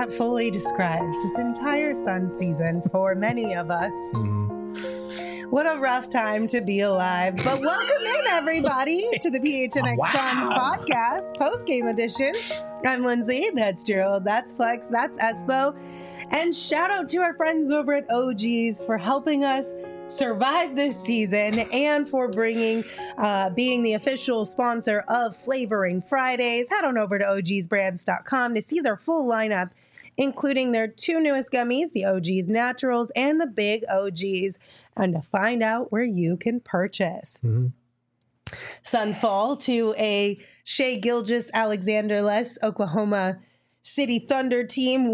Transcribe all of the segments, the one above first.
that fully describes this entire Sun season for many of us. What a rough time to be alive. But welcome in, everybody, to the PHNX Suns podcast, post-game edition. I'm Lindsay. That's Gerald. That's Flex. That's Espo. And shout out to our friends over at OGs for helping us survive this season and for being the official sponsor of Flavoring Fridays. Head on over to ogsbrands.com to see their full lineup, including their two newest gummies, the OGs Naturals and the Big OGs, and to find out where you can purchase. Suns fall to a Shai Gilgeous-Alexander-less Oklahoma City Thunder team,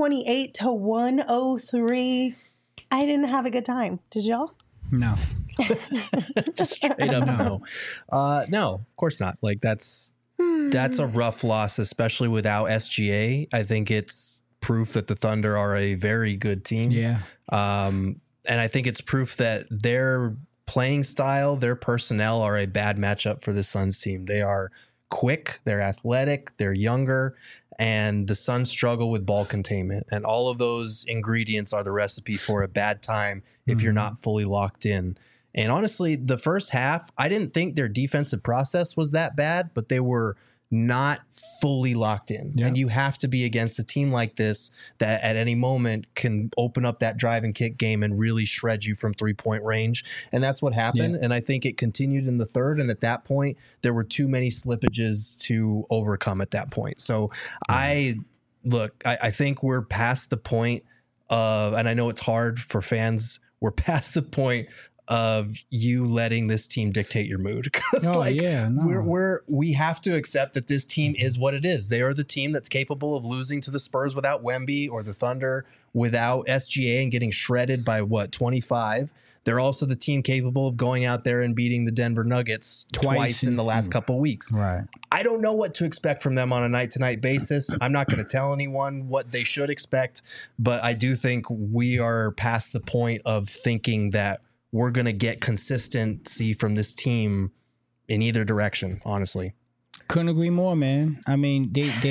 128-103. I didn't have a good time. Did y'all? No. Just straight up no. No, of course not. Like that's a rough loss, especially without SGA. I think it's proof that the Thunder are a very good team. Yeah. And I think it's proof that their playing style, their personnel are a bad matchup for the Suns team. They are quick, they're athletic, they're younger, and the Suns struggle with ball containment. And all of those ingredients are the recipe for a bad time if you're not fully locked in. And honestly, the first half, I didn't think their defensive process was that bad, but they were not fully locked in. Yeah. And you have to be against a team like this that at any moment can open up that drive and kick game and really shred you from 3-point range. And that's what happened. Yeah. And I think it continued in the third. And at that point, there were too many slippages to overcome at that point. So I think we're past the point of, and I know it's hard for fans, we're past the point of you letting this team dictate your mood, because we have to accept that this team is what it is. They are the team that's capable of losing to the Spurs without Wemby, or the Thunder without SGA and getting shredded by 25. They're also the team capable of going out there and beating the Denver Nuggets twice in the last couple weeks. Right. I don't know what to expect from them on a night-to-night basis. I'm not going to tell anyone what they should expect, but I do think we are past the point of thinking that we're going to get consistency from this team in either direction, honestly. Couldn't agree more, man. I mean,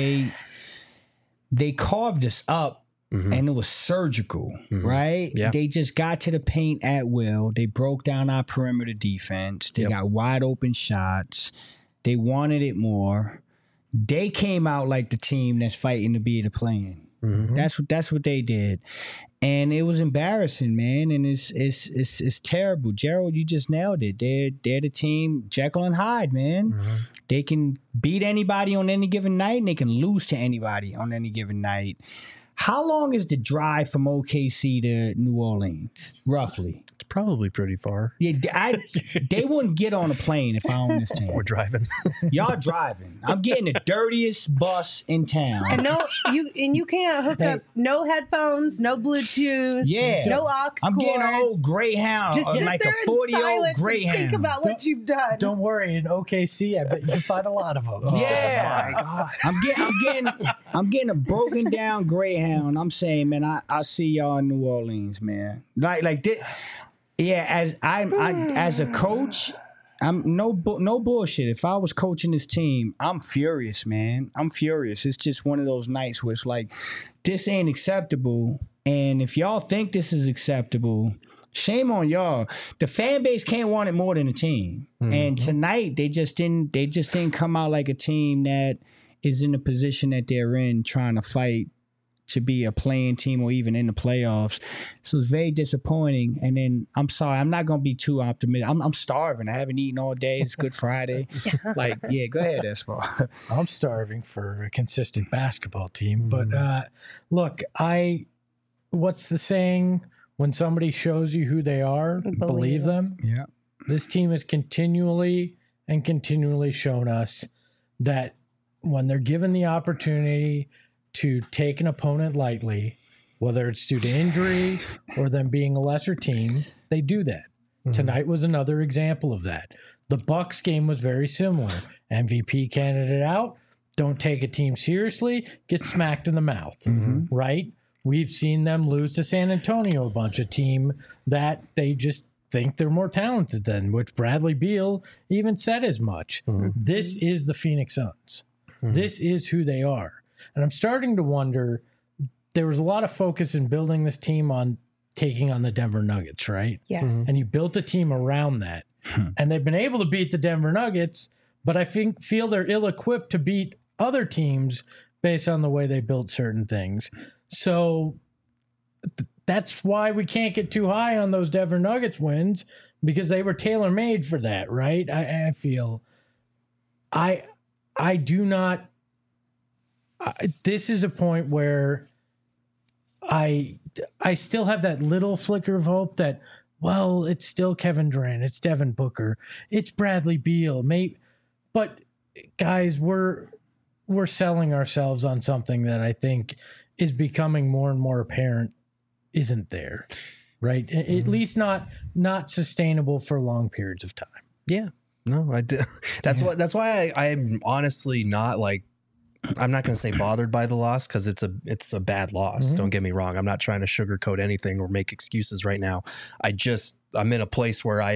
they carved us up, and it was surgical, right? Yeah. They just got to the paint at will. They broke down our perimeter defense. They got wide open shots. They wanted it more. They came out like the team that's fighting to be the play-in. That's what they did. And it was embarrassing, man, and it's terrible. Gerald, you just nailed it. They're the team, Jekyll and Hyde, man. They can beat anybody on any given night, and they can lose to anybody on any given night. How long is the drive from OKC to New Orleans, roughly? It's probably pretty far. Yeah, they wouldn't get on a plane if I owned this team. We're driving. Y'all driving. I'm getting the dirtiest bus in town. And you can't hook up no headphones, no Bluetooth, no aux I'm getting an cords. old Greyhound, Just sit like there a 40-year-old silence and Greyhound. think about what you've done. Don't worry, in OKC, I bet you can find a lot of them. Yeah, Oh my God. I'm getting a broken down Greyhound. I'm saying, man, I see y'all in New Orleans, man. Like this. Yeah, as a coach, I'm no bullshit. If I was coaching this team, I'm furious, man. I'm furious. It's just one of those nights where it's like, this ain't acceptable. And if y'all think this is acceptable, shame on y'all. The fan base can't want it more than the team. And tonight they just didn't come out like a team that is in the position that they're in, trying to fight to be a playing team or even in the playoffs. So it's very disappointing. And then I'm sorry, I'm not gonna be too optimistic. I'm starving. I haven't eaten all day. It's Good Friday. Go ahead, Espo. I'm starving for a consistent basketball team. But look, what's the saying? When somebody shows you who they are, believe them. Yeah. This team has continually shown us that when they're given the opportunity to take an opponent lightly, whether it's due to injury or them being a lesser team, they do that. Tonight was another example of that. The Bucks game was very similar. MVP candidate out, don't take a team seriously, get smacked in the mouth, right? We've seen them lose to San Antonio, a bunch of team that they just think they're more talented than, which Bradley Beal even said as much. This is the Phoenix Suns. This is who they are. And I'm starting to wonder, there was a lot of focus in building this team on taking on the Denver Nuggets, right? Yes. And you built a team around that. And they've been able to beat the Denver Nuggets, but I feel they're ill-equipped to beat other teams based on the way they built certain things. So that's why we can't get too high on those Denver Nuggets wins, because they were tailor-made for that, right? I feel I do not. This is a point where I still have that little flicker of hope that, well, it's still Kevin Durant, it's Devin Booker, it's Bradley Beal, but guys, we're selling ourselves on something that I think is becoming more and more apparent isn't there, right? At least not sustainable for long periods of time. Yeah, no, I did. That's why I'm honestly not like, I'm not going to say bothered by the loss, because it's a bad loss. Don't get me wrong. I'm not trying to sugarcoat anything or make excuses right now. I'm in a place where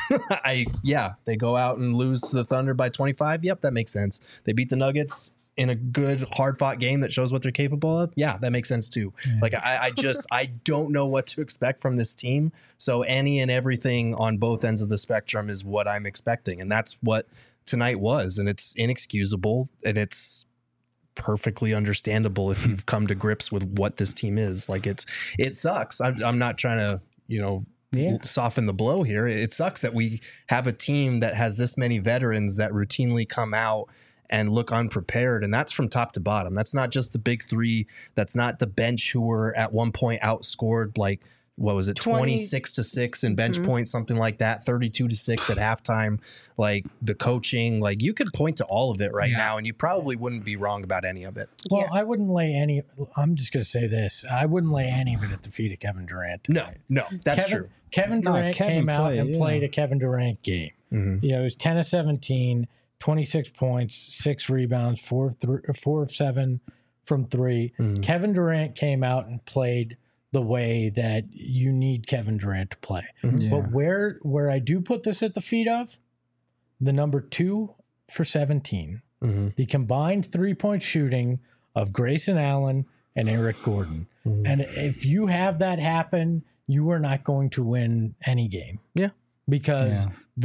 they go out and lose to the Thunder by 25. Yep, that makes sense. They beat the Nuggets in a good, hard fought game that shows what they're capable of. Yeah, that makes sense too. Yeah. Like I don't know what to expect from this team. So any and everything on both ends of the spectrum is what I'm expecting. And that's what tonight was. And it's inexcusable, and it's perfectly understandable if you've come to grips with what this team is. Like it sucks. I'm not trying to, soften the blow here. It sucks that we have a team that has this many veterans that routinely come out and look unprepared. And that's from top to bottom. That's not just the big three. That's not the bench who were at one point outscored, like, what was it, 26-6 in bench points, something like that, 32-6 at halftime. Like the coaching, like you could point to all of it right now, and you probably wouldn't be wrong about any of it. Well, I wouldn't lay any. I'm just going to say this: I wouldn't lay any of it at the feet of Kevin Durant tonight. No, that's true. Kevin Durant came out and played a Kevin Durant game. You know, it was 10 of 17, 26 points, 6 rebounds, 4 of 7 from 3. Kevin Durant came out and played the way that you need Kevin Durant to play. But where I do put this at the feet of the number 2 for 17, the combined 3-point shooting of Grayson Allen and Eric Gordon. And if you have that happen, you are not going to win any game. Yeah. Because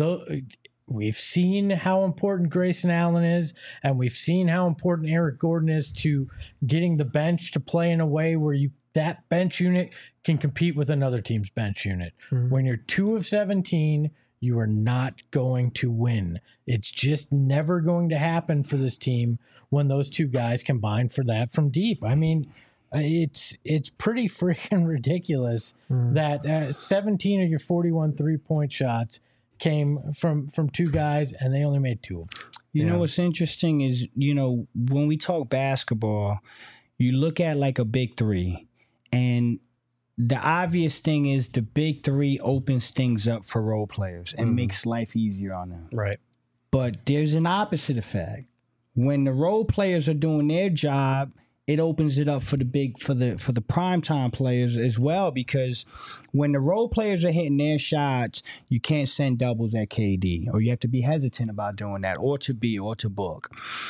we've seen how important Grayson Allen is, and we've seen how important Eric Gordon is to getting the bench to play in a way where that bench unit can compete with another team's bench unit. When you're 2 of 17, you are not going to win. It's just never going to happen for this team when those two guys combine for that from deep. I mean, it's pretty freaking ridiculous that 17 of your 41 3-point shots came from 2 guys, and they only made 2 of them. You know what's interesting is, when we talk basketball, you look at like a big 3, and the obvious thing is the big 3 opens things up for role players and makes life easier on them. Right. But there's an opposite effect. When the role players are doing their job, it opens it up for the primetime players as well, because when the role players are hitting their shots, you can't send doubles at KD, or you have to be hesitant about doing that, or to Book.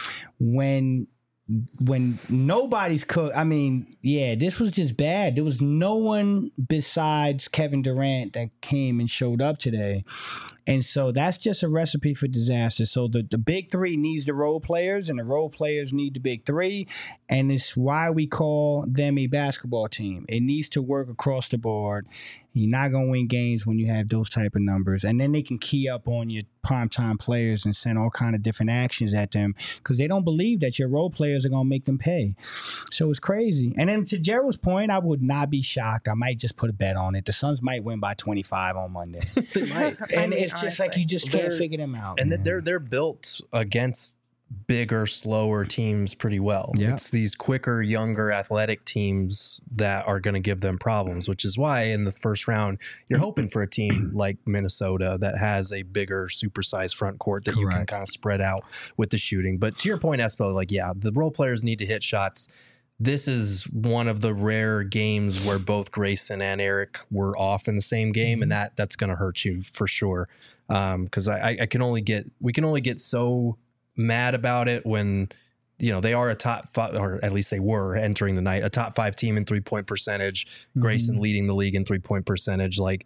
When nobody's this was just bad. There was no one besides Kevin Durant that came and showed up today. And so that's just a recipe for disaster. So the big 3 needs the role players, and the role players need the big 3. And it's why we call them a basketball team. It needs to work across the board. You're not going to win games when you have those type of numbers. And then they can key up on your primetime players and send all kind of different actions at them, because they don't believe that your role players are going to make them pay. So it's crazy. And then to Gerald's point, I would not be shocked. I might just put a bet on it. The Suns might win by 25 on Monday. They might. And it's just like you just can't figure them out. And they're built against bigger, slower teams pretty well. Yeah. It's these quicker, younger, athletic teams that are going to give them problems, which is why in the first round, you're hoping for a team like Minnesota that has a bigger, supersized front court that you can kind of spread out with the shooting. But to your point, Espo, the role players need to hit shots. This is one of the rare games where both Grayson and Eric were off in the same game, and that's going to hurt you for sure. Because we can only get so mad about it when they are a top 5, or at least they were entering the night, a top 5 team in 3-point percentage. Grayson leading the league in 3-point percentage. Like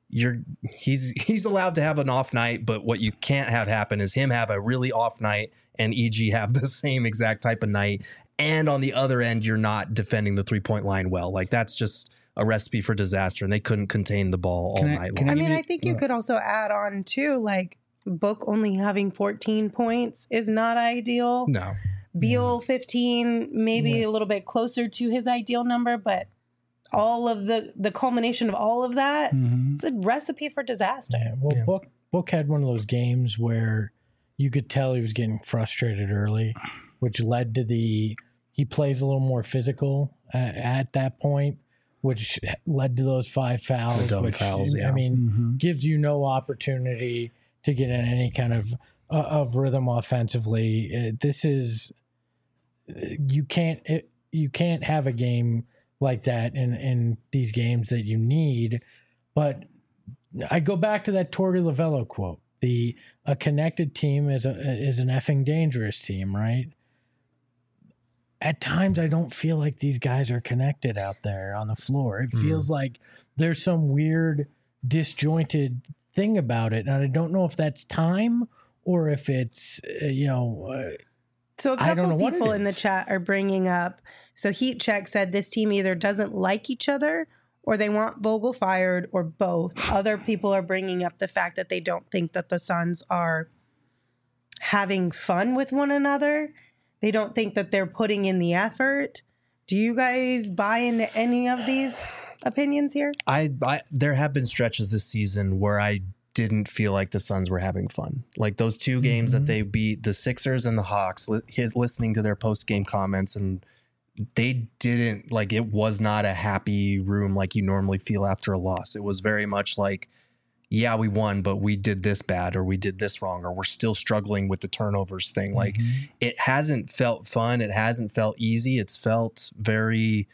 he's allowed to have an off night, but what you can't have happen is him have a really off night and EG have the same exact type of night. And on the other end, you're not defending the 3-point line well. Like that's just a recipe for disaster, and they couldn't contain the ball all night long. I think you could also add on too, like Book only having 14 points is not ideal. No. Beal 15, maybe a little bit closer to his ideal number, but all of the culmination of all of that, it's a recipe for disaster. Yeah, well, Book had one of those games where you could tell he was getting frustrated early, which led to he plays a little more physical at that point, which led to those 5 fouls, which fouls, I mean, gives you no opportunity to get in any kind of rhythm offensively. This is you can't have a game like that in these games that you need. But I go back to that Torey Lovello quote: "A connected team is an effing dangerous team," right? At times, I don't feel like these guys are connected out there on the floor. It feels like there's some weird, disjointed thing about it, and I don't know if that's time or if it's So a couple of people in the chat are bringing up. So Heat Check said this team either doesn't like each other or they want Vogel fired or both. Other people are bringing up the fact that they don't think that the Suns are having fun with one another. They don't think that they're putting in the effort. Do you guys buy into any of these opinions here? There have been stretches this season where I didn't feel like the Suns were having fun. Like those 2 games that they beat the Sixers and the Hawks, listening to their post-game comments, and they didn't, like, it was not a happy room like you normally feel after a loss. It was very much like, yeah, we won, but we did this bad, or we did this wrong, or we're still struggling with the turnovers thing. Like it hasn't felt fun. It hasn't felt easy. It's felt very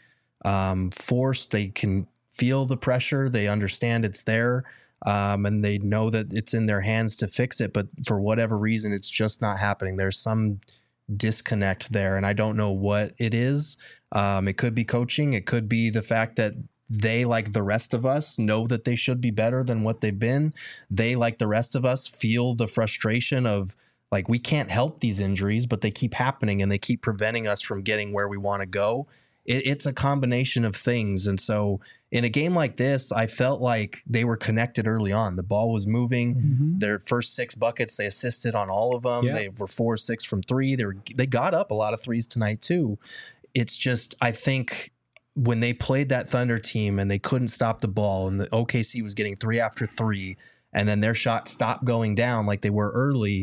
forced. They can feel the pressure. They understand it's there. And they know that it's in their hands to fix it. But for whatever reason, it's just not happening. There's some disconnect there, and I don't know what it is. It could be coaching. It could be the fact that they, like the rest of us, know that they should be better than what they've been. They, like the rest of us, feel the frustration of, like, we can't help these injuries, but they keep happening and they keep preventing us from getting where we want to go. It's a combination of things. And so in a game like this, I felt like they were connected early on. The ball was moving. Their first 6 buckets, they assisted on all of them. They were 4-6 from 3. They got up a lot of threes tonight too. It's just, I think when they played that Thunder team and they couldn't stop the ball, and the OKC was getting 3 after 3, and then their shot stopped going down like they were early,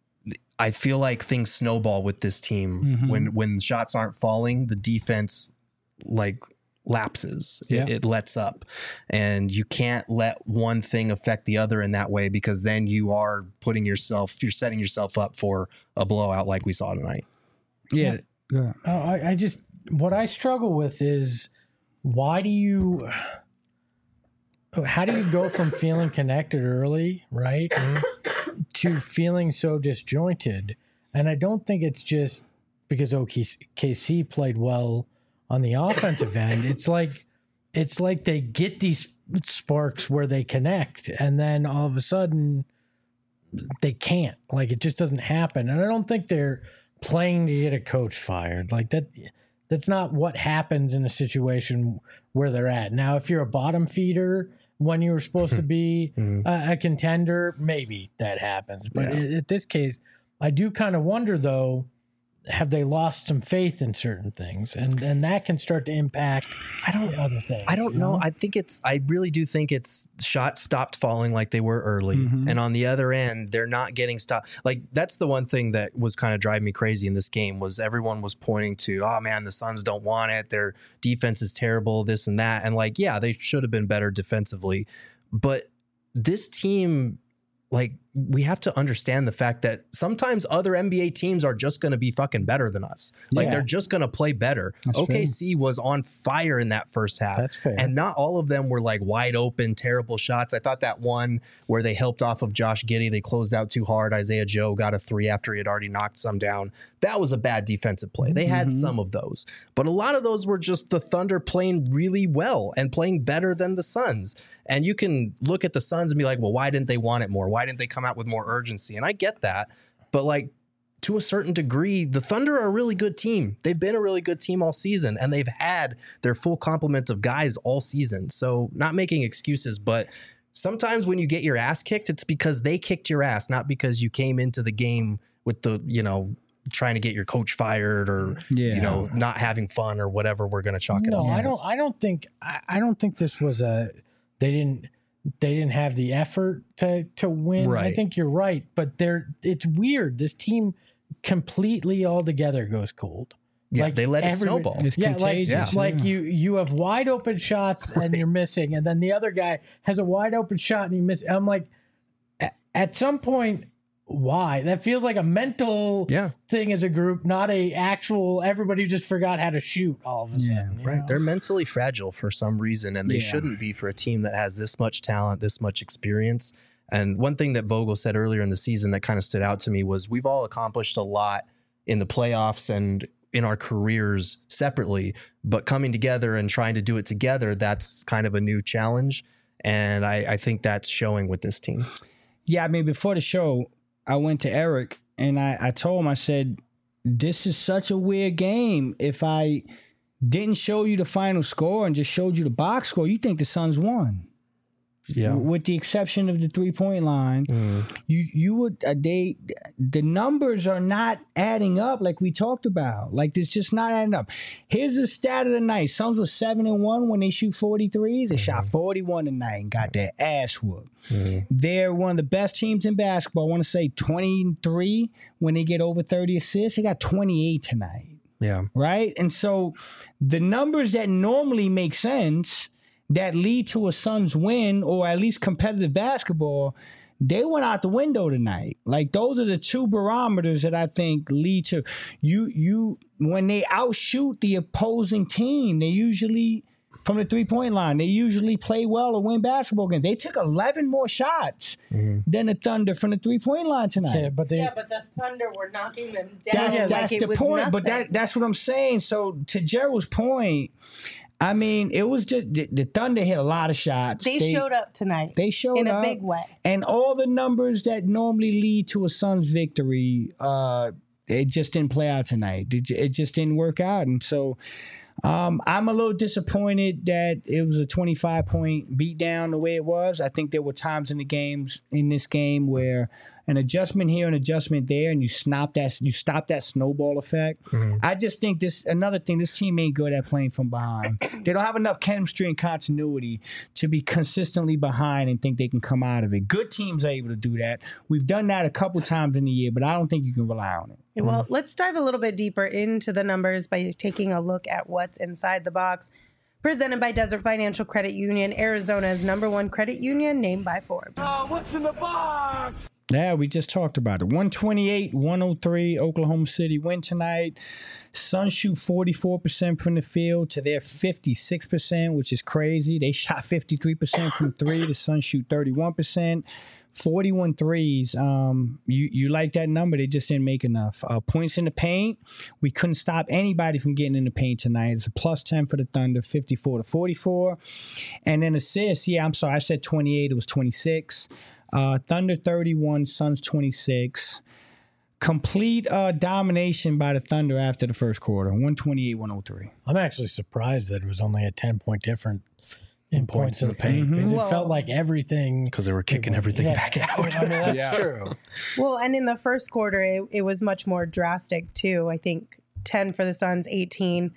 I feel like things snowball with this team. When shots aren't falling, the defense like lapses. It lets up, and you can't let one thing affect the other in that way, because then you're setting yourself up for a blowout like we saw tonight. What I struggle with is how do you go from feeling connected early, right, to feeling so disjointed? And I don't think it's just because OKC played well on the offensive end. It's like they get these sparks where they connect, and then all of a sudden they can't. Like, it just doesn't happen. And I don't think they're playing to get a coach fired. Like that. That's not what happens in a situation where they're at. Now, if you're a bottom feeder when you were supposed to be a contender, maybe that happens. But in this case, I do kind of wonder, though, have they lost some faith in certain things? And that can start to impact other things. I don't know. I really do think it's shots stopped falling like they were early. And on the other end, they're not getting stopped. Like, that's the one thing that was kind of driving me crazy in this game, was everyone was pointing to, oh man, the Suns don't want it. Their defense is terrible, this and that. And like, yeah, they should have been better defensively. But this team, like, we have to understand the fact that sometimes other NBA teams are just going to be fucking better than us. Like they're just going to play better. That's OKC was on fire in that first half. That's fair. And not all of them were like wide open, terrible shots. I thought that one where they helped off of Josh Giddey, they closed out too hard. Isaiah Joe got a 3 after he had already knocked some down. That was a bad defensive play. They had some of those, but a lot of those were just the Thunder playing really well and playing better than the Suns. And you can look at the Suns and be like, well, why didn't they want it more? Why didn't they come out with more urgency? And I get that. But like to a certain degree, the Thunder are a really good team. They've been a really good team all season, and they've had their full complement of guys all season. So not making excuses, but sometimes when you get your ass kicked, it's because they kicked your ass, not because you came into the game with the, trying to get your coach fired or, not having fun or whatever we're going to chalk it up. No, I don't think this was they didn't have the effort to win. Right. I think you're right, but it's weird. This team completely altogether goes cold. Yeah, they let it snowball. It's contagious. Like you have wide open shots and you're missing, and then the other guy has a wide open shot and he misses. I'm like, at some point, why? That feels like a mental thing as a group, not a actual everybody just forgot how to shoot all of a sudden. Right. They're mentally fragile for some reason, and they shouldn't be for a team that has this much talent, this much experience. And one thing that Vogel said earlier in the season that kind of stood out to me was we've all accomplished a lot in the playoffs and in our careers separately, but coming together and trying to do it together, that's kind of a new challenge. And I think that's showing with this team. Yeah, I mean, before the show, I went to Eric and I told him, I said, this is such a weird game. If I didn't show you the final score and just showed you the box score, you think the Suns won. Yeah. With the exception of the 3-point line, you would the numbers are not adding up like we talked about. Like it's just not adding up. Here's the stat of the night: Suns were 7-1 when they shoot 43s. They shot 41 tonight and got their ass whooped. They're one of the best teams in basketball. I want to say 23 when they get over 30 assists. They got 28 tonight. Yeah. Right? And so the numbers that normally make sense that lead to a Suns win or at least competitive basketball, they went out the window tonight. Like those are the two barometers that I think lead to you when they outshoot the opposing team, they usually from the 3-point line, they usually play well or win basketball games. They took 11 more shots than the Thunder from the 3-point line tonight. Yeah, but the Thunder were knocking them down. That's the point. Nothing. But that's what I'm saying. So to Gerald's point, I mean, it was just the Thunder hit a lot of shots. They showed up tonight. They showed up in a big way. And all the numbers that normally lead to a Suns victory, it just didn't play out tonight. It just didn't work out. And so I'm a little disappointed that it was a 25-point beatdown the way it was. I think there were times in this game where an adjustment here, an adjustment there, and you stop that snowball effect. I just think another thing, this team ain't good at playing from behind. They don't have enough chemistry and continuity to be consistently behind and think they can come out of it. Good teams are able to do that. We've done that a couple times in the year, but I don't think you can rely on it. Well, let's dive a little bit deeper into the numbers by taking a look at what's inside the box. Presented by Desert Financial Credit Union, Arizona's #1 credit union, named by Forbes. What's in the box? Yeah, we just talked about it. 128-103, Oklahoma City win tonight. Suns shoot 44% from the field to their 56%, which is crazy. They shot 53% from three. The Suns shoot 31%. 41 threes. You like that number. They just didn't make enough. Points in the paint. We couldn't stop anybody from getting in the paint tonight. It's a plus 10 for the Thunder, 54-44. And then assists. Yeah, I'm sorry. I said 28. It was 26. Thunder 31, Suns 26. Complete domination by the Thunder after the first quarter, 128-103. I'm actually surprised that it was only a 10-point difference in points in the paint because it felt like everything. Because they were kicking everything back out. I mean, that's true. Well, and in the first quarter, it was much more drastic too. I think 10 for the Suns, 18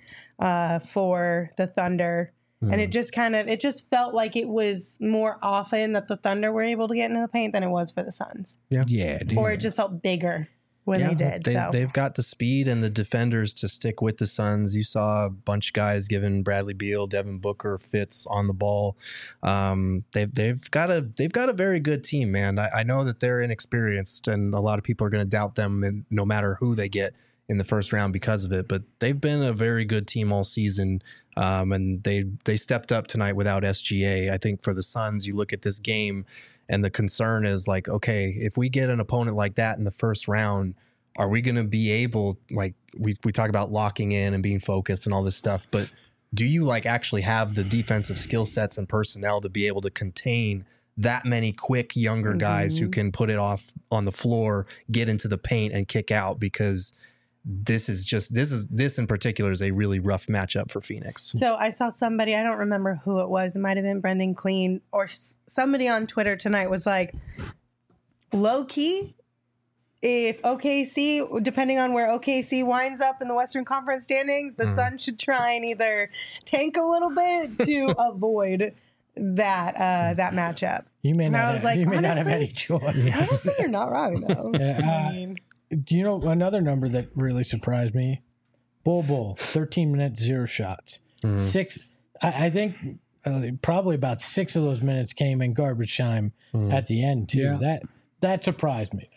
for the Thunder. And it just felt like it was more often that the Thunder were able to get into the paint than it was for the Suns. Yeah. Or it just felt bigger. when they did. They've got the speed and the defenders to stick with the Suns. You saw a bunch of guys giving Bradley Beal, Devin Booker fits on the ball. They've got a very good team, man. I know that they're inexperienced, and a lot of people are going to doubt them, and no matter who they get in the first round because of it. But they've been a very good team all season, and they stepped up tonight without SGA. I think for the Suns, you look at this game, and the concern is like, okay, if we get an opponent like that in the first round, are we going to be able, like we talk about locking in and being focused and all this stuff, but do you like actually have the defensive skill sets and personnel to be able to contain that many quick younger guys who can put it off on the floor, get into the paint and kick out? Because this in particular is a really rough matchup for Phoenix. So I saw somebody, I don't remember who it was. It might have been Brendan Clean or somebody on Twitter tonight was like, low key, if OKC, depending on where OKC winds up in the Western Conference standings, the Suns should try and either tank a little bit to avoid that matchup. You may not have any choice. Honestly, you're not wrong, though. I mean, do you know another number that really surprised me? Bol, 13 minutes, 0 shots. 6. I think probably about 6 of those minutes came in garbage time at the end too. Yeah. That surprised me.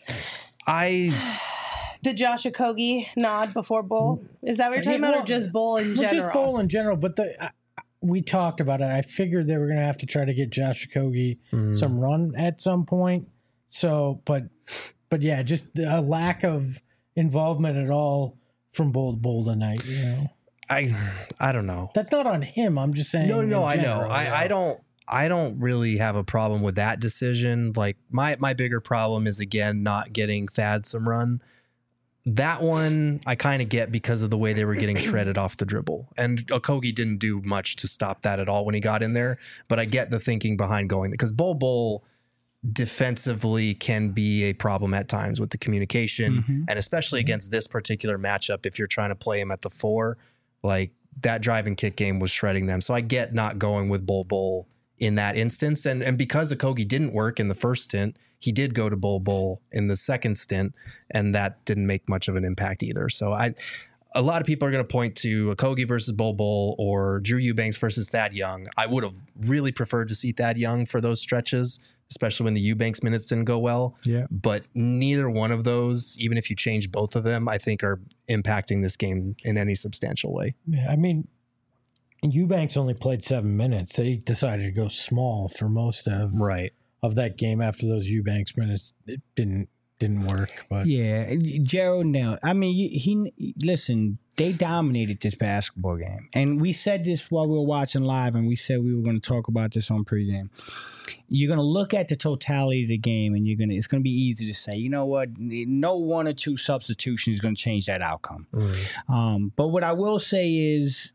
Did Josh Okogie nod before Bol? Is that what you're talking about, or just Bol in general? Just Bol in general, but we talked about it. I figured they were going to have to try to get Josh Okogie some run at some point. So, but yeah, just a lack of involvement at all from Bol tonight. You know, I don't know. That's not on him. I'm just saying. No, I know. Yeah. I don't really have a problem with that decision. Like my bigger problem is again not getting Thad some run. That one I kind of get because of the way they were getting shredded off the dribble, and Okogie didn't do much to stop that at all when he got in there. But I get the thinking behind going because Bol defensively can be a problem at times with the communication, and especially against this particular matchup, if you're trying to play him at the 4, like that drive and kick game was shredding them. So I get not going with Bol in that instance. And because Okogie didn't work in the first stint, he did go to Bol in the second stint, and that didn't make much of an impact either. So a lot of people are going to point to Okogie versus Bol or Drew Eubanks versus Thad Young. I would have really preferred to see Thad Young for those stretches, especially when the Eubanks minutes didn't go well. Yeah. But neither one of those, even if you change both of them, I think are impacting this game in any substantial way. Yeah, I mean, Eubanks only played 7 minutes. They decided to go small for most of that game after those Eubanks minutes. It didn't work. But yeah, Gerald nailed. I mean, he listen. They dominated this basketball game, and we said this while we were watching live, and we said we were going to talk about this on pregame. You're going to look at the totality of the game, and it's going to be easy to say, you know what, no 1 or 2 substitutions is going to change that outcome. But what I will say is,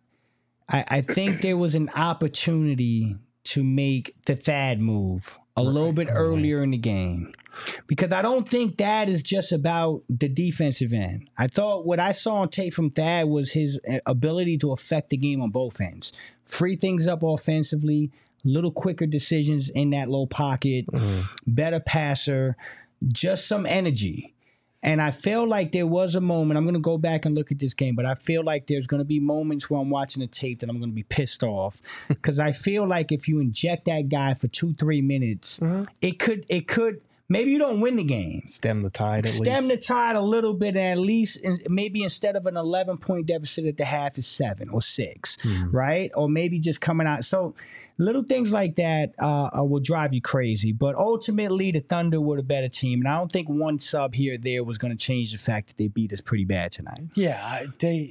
I think there was an opportunity to make the Thad move a little bit earlier in the game. Because I don't think that is just about the defensive end. I thought what I saw on tape from Thad was his ability to affect the game on both ends. Free things up offensively, little quicker decisions in that low pocket, better passer, just some energy. And I feel like there was a moment, I'm going to go back and look at this game, but I feel like there's going to be moments where I'm watching the tape that I'm going to be pissed off. Because I feel like if you inject that guy for 2-3 minutes, it could, maybe you don't win the game. Stem the tide at least. Stem the tide a little bit, at least. Maybe instead of an 11-point deficit at the half is 7 or 6, right? Or maybe just coming out. So little things like that will drive you crazy. But ultimately, the Thunder were the better team. And I don't think one sub here or there was going to change the fact that they beat us pretty bad tonight. Yeah,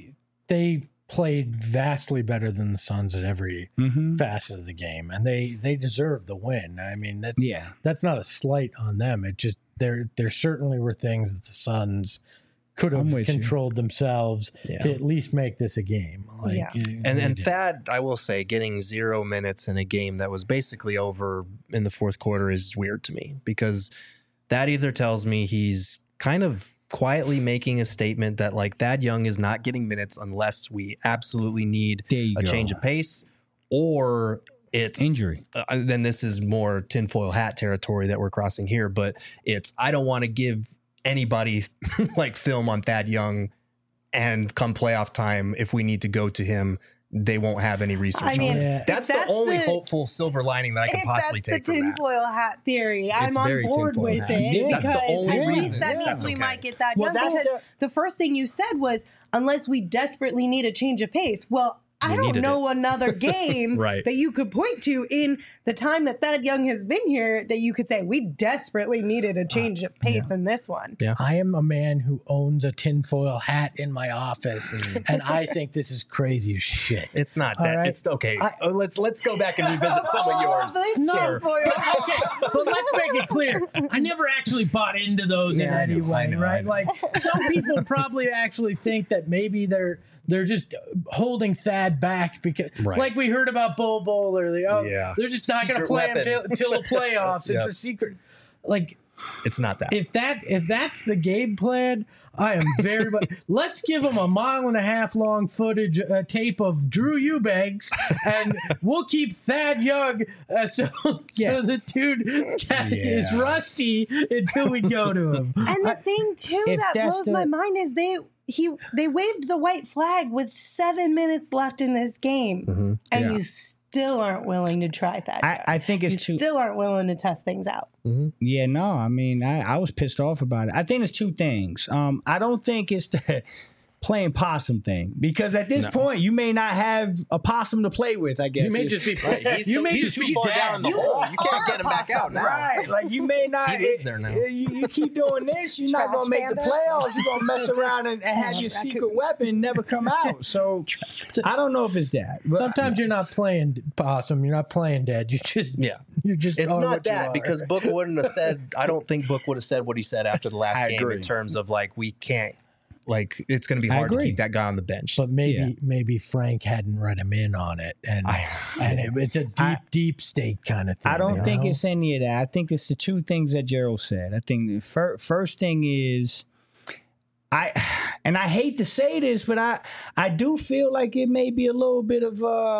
they played vastly better than the Suns at every facet of the game, and they deserve the win. I mean, that's not a slight on them. It just there certainly were things that the Suns could have controlled themselves to at least make this a game. And Thad, I will say, getting 0 minutes in a game that was basically over in the fourth quarter is weird to me, because that either tells me he's kind of quietly making a statement that like Thad Young is not getting minutes unless we absolutely need a change of pace, or it's injury. Then this is more tinfoil hat territory that we're crossing here, but it's, I don't want to give anybody like film on Thad Young, and come playoff time, if we need to go to him, they won't have any research I mean, on it. Yeah. That's the only hopeful silver lining that I can possibly take That's the from that. tinfoil hat theory. I'm It's on very board tinfoil with hat. it Yeah. because That's the only at least reason. that Yeah. means That's we okay. might get that Well, young. that's Because the first thing you said was, unless we desperately need a change of pace. Well, I We don't needed know another game Right. that you could point to in the time that Thad Young has been here that you could say we desperately needed a change of pace in this one. I am a man who owns a tinfoil hat in my office, and I think this is crazy as shit. It's not All that. right. It's okay. Let's go back and revisit some of yours, the sir. tinfoil hat. Okay, but let's make it clear. I never actually bought into those in Yeah, I any know, I way, know, right? I know. Like some people probably actually think that maybe they're just holding Thad back because, Right. like we heard about Bo Bowler, Yeah. they're just not going to Secret play him weapon. till the playoffs. Yep. It's a secret. Like It's not that. if that's the game plan, I am very much. Let's give him a 1.5 mile long footage tape of Drew Eubanks, and we'll keep Thad Young so the dude is rusty until we go to him. And the thing too if that that's blows the- my mind is they waved the white flag with 7 minutes left in this game, and you still aren't willing to try that. I think you it's too. still aren't willing to test things out. Yeah, no, I mean, I was pissed off about it. I think it's two things. I don't think it's the playing possum thing, because at this point you may not have a possum to play with. I guess You may just be He's you may he's just too be far dead. down in the You hole. You are can't get him back possum, out now. right. Like you may not. He lives there now. You keep doing this, you're not Trash gonna make the panda. playoffs. You're gonna mess around and have your secret weapon never come out. So I don't know if it's that. But Sometimes you're not playing possum. You're not playing dead. You just You just It's are not what you that, are. because Book wouldn't have said. I don't think Book would have said what he said after the last I game agree. in terms of like we can't. Like it's going to be I hard to agree. keep that guy on the bench. But maybe Frank hadn't read him in on it, and it's a deep state kind of thing. I don't you think know? it's any of that. I think it's the two things that Gerald said. I think the first thing is, I hate to say this, but I do feel like it may be a little bit of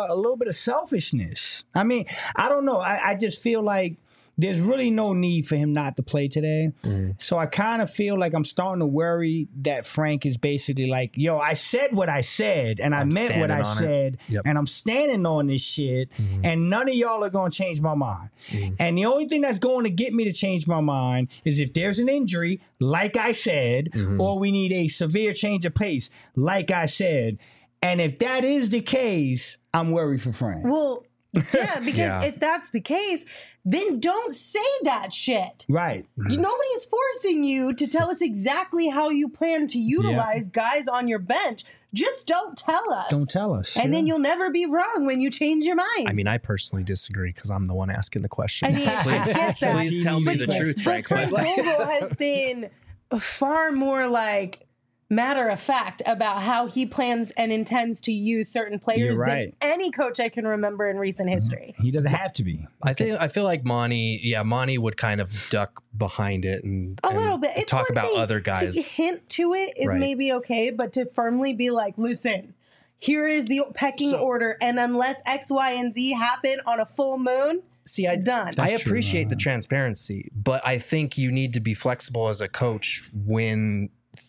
selfishness. I mean, I don't know. I just feel like there's really no need for him not to play today. So I kind of feel like I'm starting to worry that Frank is basically like, yo, I said what I said, and I meant what I standing on it. said, Yep. and I'm standing on this shit, and none of y'all are going to change my mind. And the only thing that's going to get me to change my mind is if there's an injury, like I said, or we need a severe change of pace, like I said. And if that is the case, I'm worried for Frank. Well, yeah, because Yeah. if that's the case, then don't say that shit. Right. Nobody is forcing you to tell us exactly how you plan to utilize guys on your bench. Just don't tell us. Don't tell us. And then you'll never be wrong when you change your mind. I mean, I personally disagree because I'm the one asking the question. I mean, I get that. Please tell me the But- truth, But Frank. Frank Vogel has been far more like matter of fact about how he plans and intends to use certain players You're right. than any coach I can remember in recent history. He doesn't have to be. I feel like Monty would kind of duck behind it and A little bit. It's talk one about thing other guys. To hint to it is Right. maybe okay, but to firmly be like, listen, here is the pecking order, and unless X, Y, and Z happen on a full moon, See, I done. I That's true. appreciate the transparency, but I think you need to be flexible as a coach when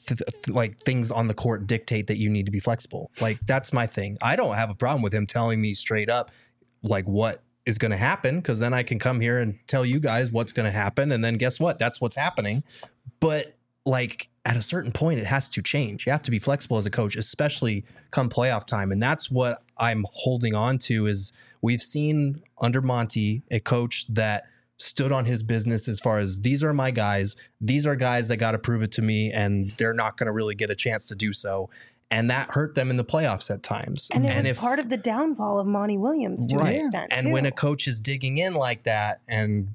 like things on the court dictate that you need to be flexible. Like that's my thing. I don't have a problem with him telling me straight up like what is going to happen, because then I can come here and tell you guys what's going to happen, and then guess what? That's what's happening. But like at a certain point, it has to change. You have to be flexible as a coach, especially come playoff time, and that's what I'm holding on to. Is we've seen under Monty a coach that stood on his business as far as these are my guys. These are guys that got to prove it to me, and they're not going to really get a chance to do so. And that hurt them in the playoffs at times. and it was if, part of the downfall of Monty Williams to an extent. and too. when a coach is digging in like that and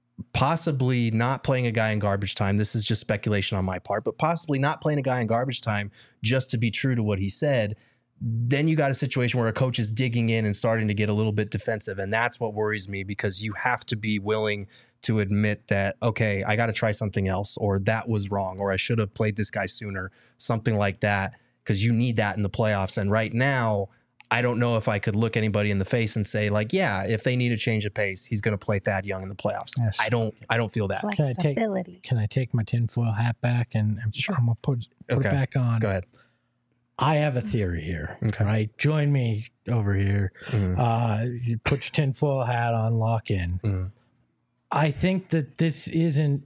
possibly not playing a guy in garbage time, this is just speculation on my part, but possibly not playing a guy in garbage time just to be true to what he said, then you got a situation where a coach is digging in and starting to get a little bit defensive. And that's what worries me, because you have to be willing to admit that, okay, I got to try something else, or that was wrong, or I should have played this guy sooner, something like that, because you need that in the playoffs. And right now, I don't know if I could look anybody in the face and say like, yeah, if they need a change of pace, he's going to play Thad Young in the playoffs. Yes. I don't feel that. Flexibility. Can I take my tinfoil hat back and Sure. I'm gonna put it back on? Go ahead. I have a theory here. Okay. Right? Join me over here. You put your tinfoil hat on, lock in. I think that this isn't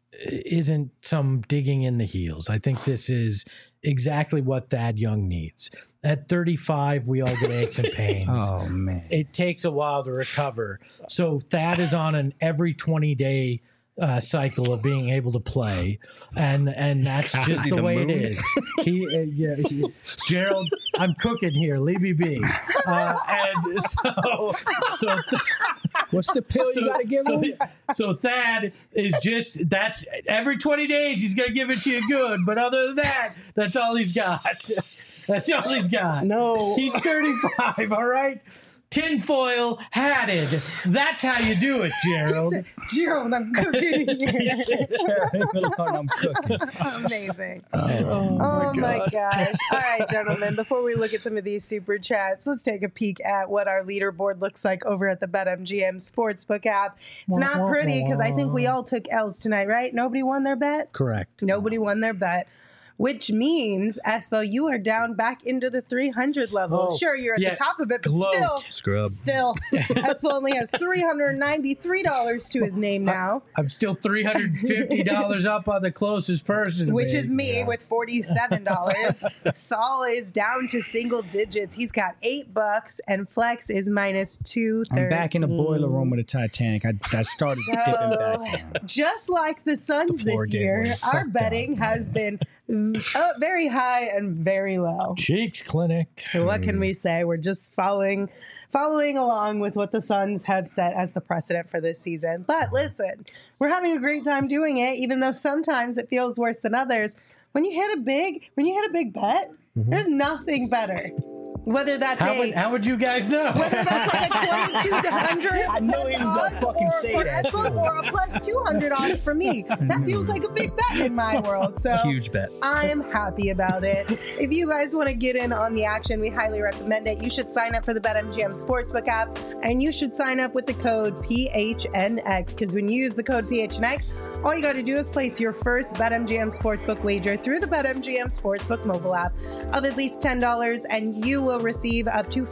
some digging in the heels. I think this is exactly what Thad Young needs. At 35, we all get aches and pains. Oh, man. It takes a while to recover. So Thad is on an every 20-day cycle of being able to play, and that's just the way it is. Gerald, I'm cooking here. Leave me be. And so What's the pill you got to give him? So Thad is that's every 20 days he's going to give it to you good. But other than that, that's all he's got. That's all he's got. No. He's 35, all right? Tinfoil hatted. That's how you do it, Gerald. Gerald, I'm cooking here. I'm cooking. Amazing. Oh my gosh. All right, gentlemen, before we look at some of these super chats, let's take a peek at what our leaderboard looks like over at the BetMGM Sportsbook app. It's not pretty because I think we all took L's tonight, right? Nobody won their bet? Correct. Nobody won their bet. Which means, Espo, you are down back into the 300 level. Oh, sure, you're at the top of it, but gloat. still, Espo only has $393 to his name now. I'm still $350 up on the closest person. Which is me with $47. Saul is down to single digits. He's got $8, and Flex is minus $213. I'm back in the boiler room of the Titanic. I started dipping back down. Just like the Suns floor this game year, was our betting has been very high and very low. Cheeks Clinic. What can we say? We're just following along with what the Suns have set as the precedent for this season. But listen, we're having a great time doing it, even though sometimes it feels worse than others. When you hit a big bet, there's nothing better. Whether that's how would you guys know? Whether that's like a 2,200 I know he was gonna fucking say that. Or a plus 200 odds for me. That feels like a big bet in my world. So Huge bet. I'm happy about it. If you guys want to get in on the action, we highly recommend it. You should sign up for the BetMGM Sportsbook app, and you should sign up with the code PHNX, because when you use the code PHNX, all you got to do is place your first BetMGM Sportsbook wager through the BetMGM Sportsbook mobile app of at least $10, and you will receive up to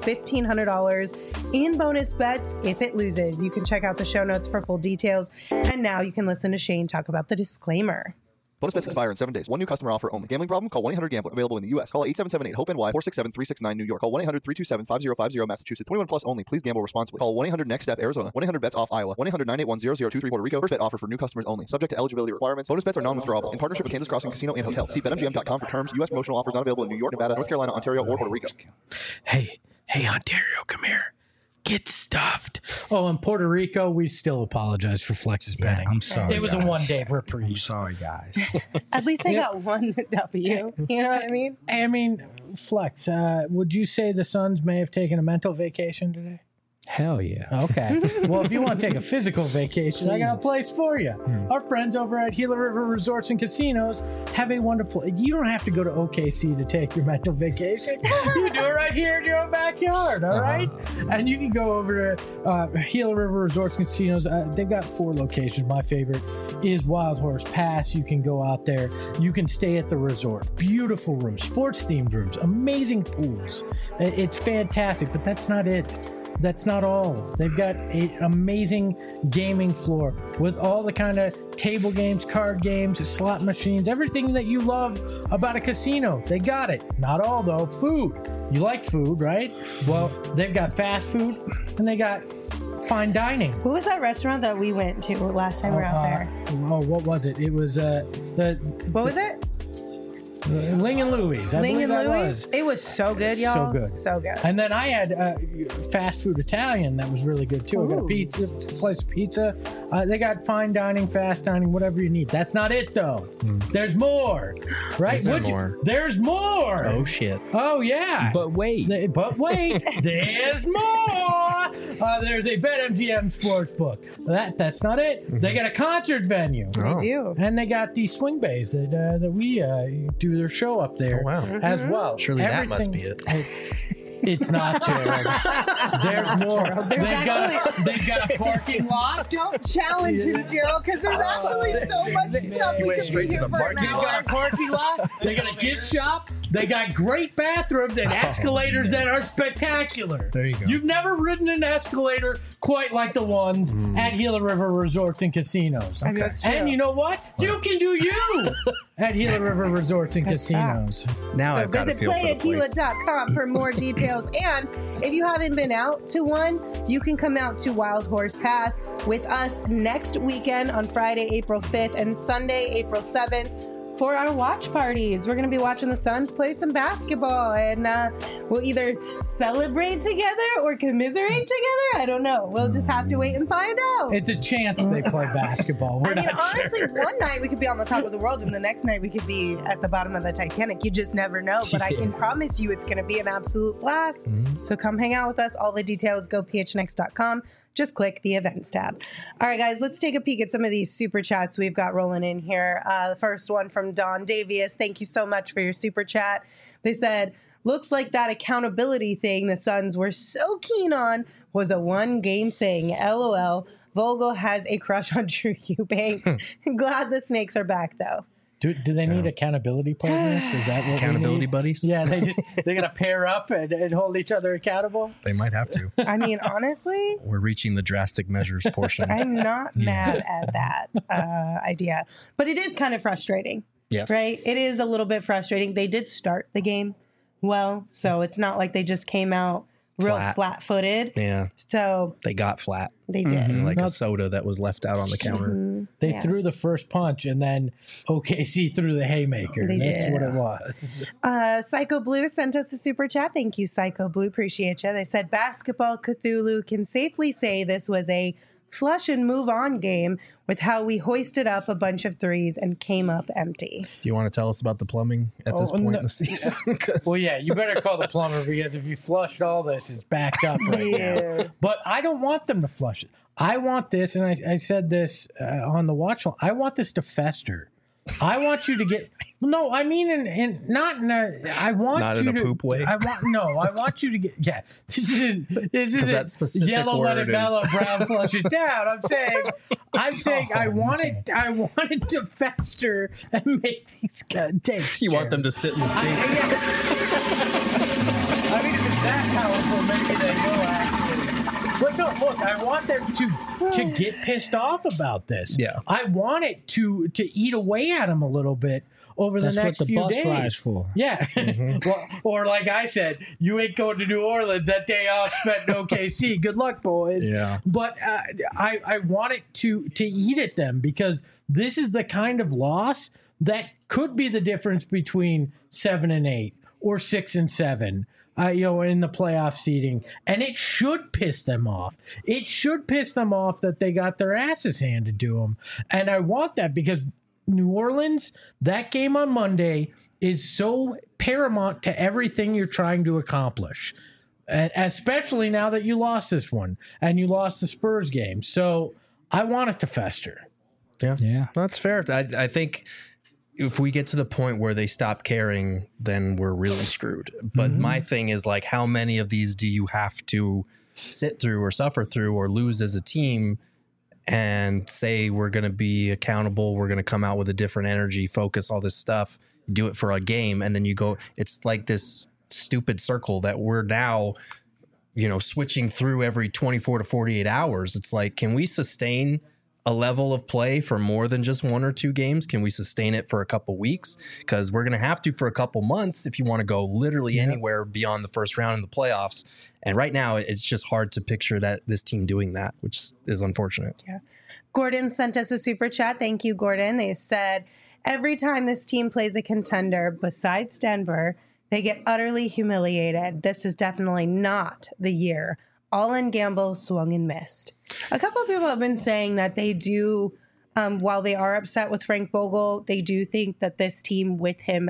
$1,500 in bonus bets if it loses. You can check out the show notes for full details. And now you can listen to Shane talk about the disclaimer. Bonus bets expire in 7 days. One new customer offer only. Gambling problem? Call 1-800-GAMBLER. Available in the U.S. Call 877-8-HOPE-NY, 467-369 New York. Call 1-800-327-5050 Massachusetts. 21 plus only. Please gamble responsibly. Call 1-800-NEXT-STEP Arizona. 1-800-BETS-OFF Iowa. 1-800-981-0023 Puerto Rico. First bet offer for new customers only. Subject to eligibility requirements. Bonus bets are non-withdrawable. In partnership with Kansas Crossing Casino and Hotel. See BetMGM.com for terms. U.S. promotional offers not available in New York, Nevada, North Carolina, Ontario, or Puerto Rico. Hey, Ontario, come here. Get stuffed. Oh, in Puerto Rico, we still apologize for Flex's betting. I'm sorry. It was guys. a one-day I'm reprieve. sorry, guys. At least I got one W. You know what I mean? I mean, Flex, would you say the Suns may have taken a mental vacation today? Hell yeah. Okay. Well, if you want to take a physical vacation, I got a place for you. Our friends over at Gila River Resorts and Casinos have a wonderful... You don't have to go to OKC to take your mental vacation. You do it right here in your own backyard, all right? And you can go over to Gila River Resorts and Casinos. They've got 4 locations. My favorite is Wild Horse Pass. You can go out there. You can stay at the resort. Beautiful rooms, sports-themed rooms, amazing pools. It's fantastic, but that's not it. That's not all. They've got an amazing gaming floor with all the kind of table games, card games, slot machines, everything that you love about a casino. They got it. Not all, though. Food. You like food, right? Well, they've got fast food and they got fine dining. What was that restaurant that we went to last time we were out there? Oh, what was it? It was What was it? Ling and Louie's. Ling and Louie's? It was so good, y'all. So good. So good. And then I had fast food Italian that was really good too. I got a pizza, slice of pizza. They got fine dining, fast dining, whatever you need. That's not it though. There's more, right? Is there more? There's more. Oh shit. Oh yeah. But wait. There's more. There's a BetMGM Sportsbook. That's not it. They got a concert venue. They do. And they got the swing bays that we do their show up there Oh, wow. as well. Surely that must be it. It's not Gerald. There's more. They got a parking lot. Don't challenge him, Gerald, because there's actually so much stuff we could be here for an They got a hour. parking lot. They got a gift shop. They got great bathrooms and escalators that are spectacular. There you go. You've never ridden an escalator quite like the ones at Gila River Resorts and Casinos. I mean, that's true. And you know what? You can do you at Gila River Resorts and Casinos. Now So I've got to visit feel for the place. playatgila.com for more details. And if you haven't been out to one, you can come out to Wild Horse Pass with us next weekend on Friday, April 5th and Sunday, April 7th. For our watch parties, we're going to be watching the Suns play some basketball, and we'll either celebrate together or commiserate together. I don't know. We'll just have to wait and find out. It's a chance they play basketball. We're I mean, not honestly, sure. one night we could be on the top of the world, and the next night we could be at the bottom of the Titanic. You just never know. But I can promise you it's going to be an absolute blast. So come hang out with us. All the details, go phnx.com. Just click the events tab. All right, guys, let's take a peek at some of these super chats we've got rolling in here. The first one from Don Davius. Thank you so much for your super chat. They said, looks like that accountability thing the Suns were so keen on was a one-game thing. LOL. Vogel has a crush on Drew Eubanks. Glad the Snakes are back, though. Do they need accountability partners? Is that what Accountability we need? buddies? Yeah, they gotta pair up and hold each other accountable. They might have to. I mean, honestly, We're reaching the drastic measures portion. I'm not mad at that idea. But it is kind of frustrating, Yes. right? It is a little bit frustrating. They did start the game well, so it's not like they just came out real flat-footed. Yeah. So They got flat. they did. Like a soda that was left out on the counter. They Yeah. threw the first punch, and then OKC threw the haymaker. They That's did. what it was. Psycho Blue sent us a super chat. Thank you, Psycho Blue. Appreciate you. They said, Basketball Cthulhu can safely say this was a flush and move on game with how we hoisted up a bunch of threes and came up empty. Do you want to tell us about the plumbing at this point in the season? 'Cause Well, yeah, you better call the plumber because if you flushed all this, it's backed up right now. But I don't want them to flush it. I want this, and I said this on the watch. I want this to fester. I want you to get no. I mean, not in a. I want Not you in a to poop way? I want you to get. Yeah, this is that specific yellow. Let it word is- mellow. Brown flush it down. I'm saying. I want it. I want it to fester and make these takes. you want them to sit in the I state. mean, if it's that powerful, maybe they will actually. But no, look, I want them to get pissed off about this. Yeah. I want it to eat away at them a little bit over That's the next what the few bus days. ride's for. Yeah. Well, or like I said, you ain't going to New Orleans. That day off spent in OKC. Good luck, boys. Yeah. But I want it to eat at them because this is the kind of loss that could be the difference between 7 and 8 or 6 and 7. In the playoff seeding, and it should piss them off. It should piss them off that they got their asses handed to them, and I want that because New Orleans, that game on Monday is so paramount to everything you're trying to accomplish, especially now that you lost this one and you lost the Spurs game. So I want it to fester. Yeah. That's fair. I think if we get to the point where they stop caring, then we're really screwed. But my thing is, like, how many of these do you have to sit through or suffer through or lose as a team and say we're going to be accountable, we're going to come out with a different energy, focus, all this stuff, do it for a game, and then you go, it's like this stupid circle that we're now, switching through every 24 to 48 hours. It's like, can we sustain a level of play for more than just 1 or 2 games? Can we sustain it for a couple weeks? Because we're going to have to for a couple months if you want to go literally anywhere beyond the first round in the playoffs. And right now, it's just hard to picture that this team doing that, which is unfortunate. Yeah. Gordon sent us a super chat. Thank you, Gordon. They said, every time this team plays a contender besides Denver, they get utterly humiliated. This is definitely not the year. All in gamble, swung and missed. A couple of people have been saying that they do, while they are upset with Frank Vogel, they do think that this team with him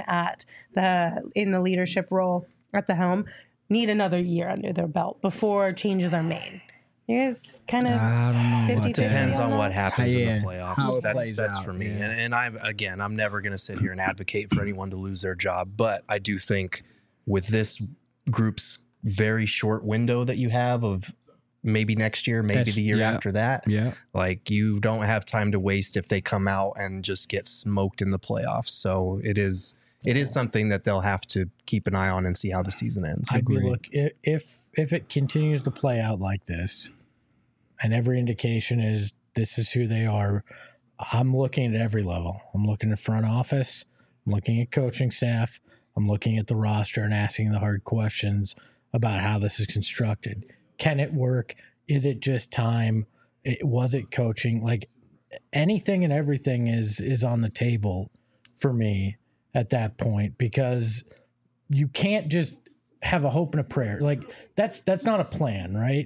in the leadership role at the helm need another year under their belt before changes are made. You guys kind of I don't know about 50-50 that. Depends on that? what happens in Yeah, the how playoffs. it plays That's out, for me. yeah. And I'm never going to sit here and advocate for anyone to lose their job. But I do think with this group's very short window that you have of maybe next year, maybe the year after that. Yeah. Like, you don't have time to waste if they come out and just get smoked in the playoffs. So it is something that they'll have to keep an eye on and see how the season ends. Look, if it continues to play out like this, and every indication is this is who they are, I'm looking at every level. I'm looking at front office. I'm looking at coaching staff. I'm looking at the roster and asking the hard questions about how this is constructed. Can it work? Is it just time? Was it coaching? Like, anything and everything is on the table for me at that point, because you can't just have a hope and a prayer. Like, that's not a plan, right?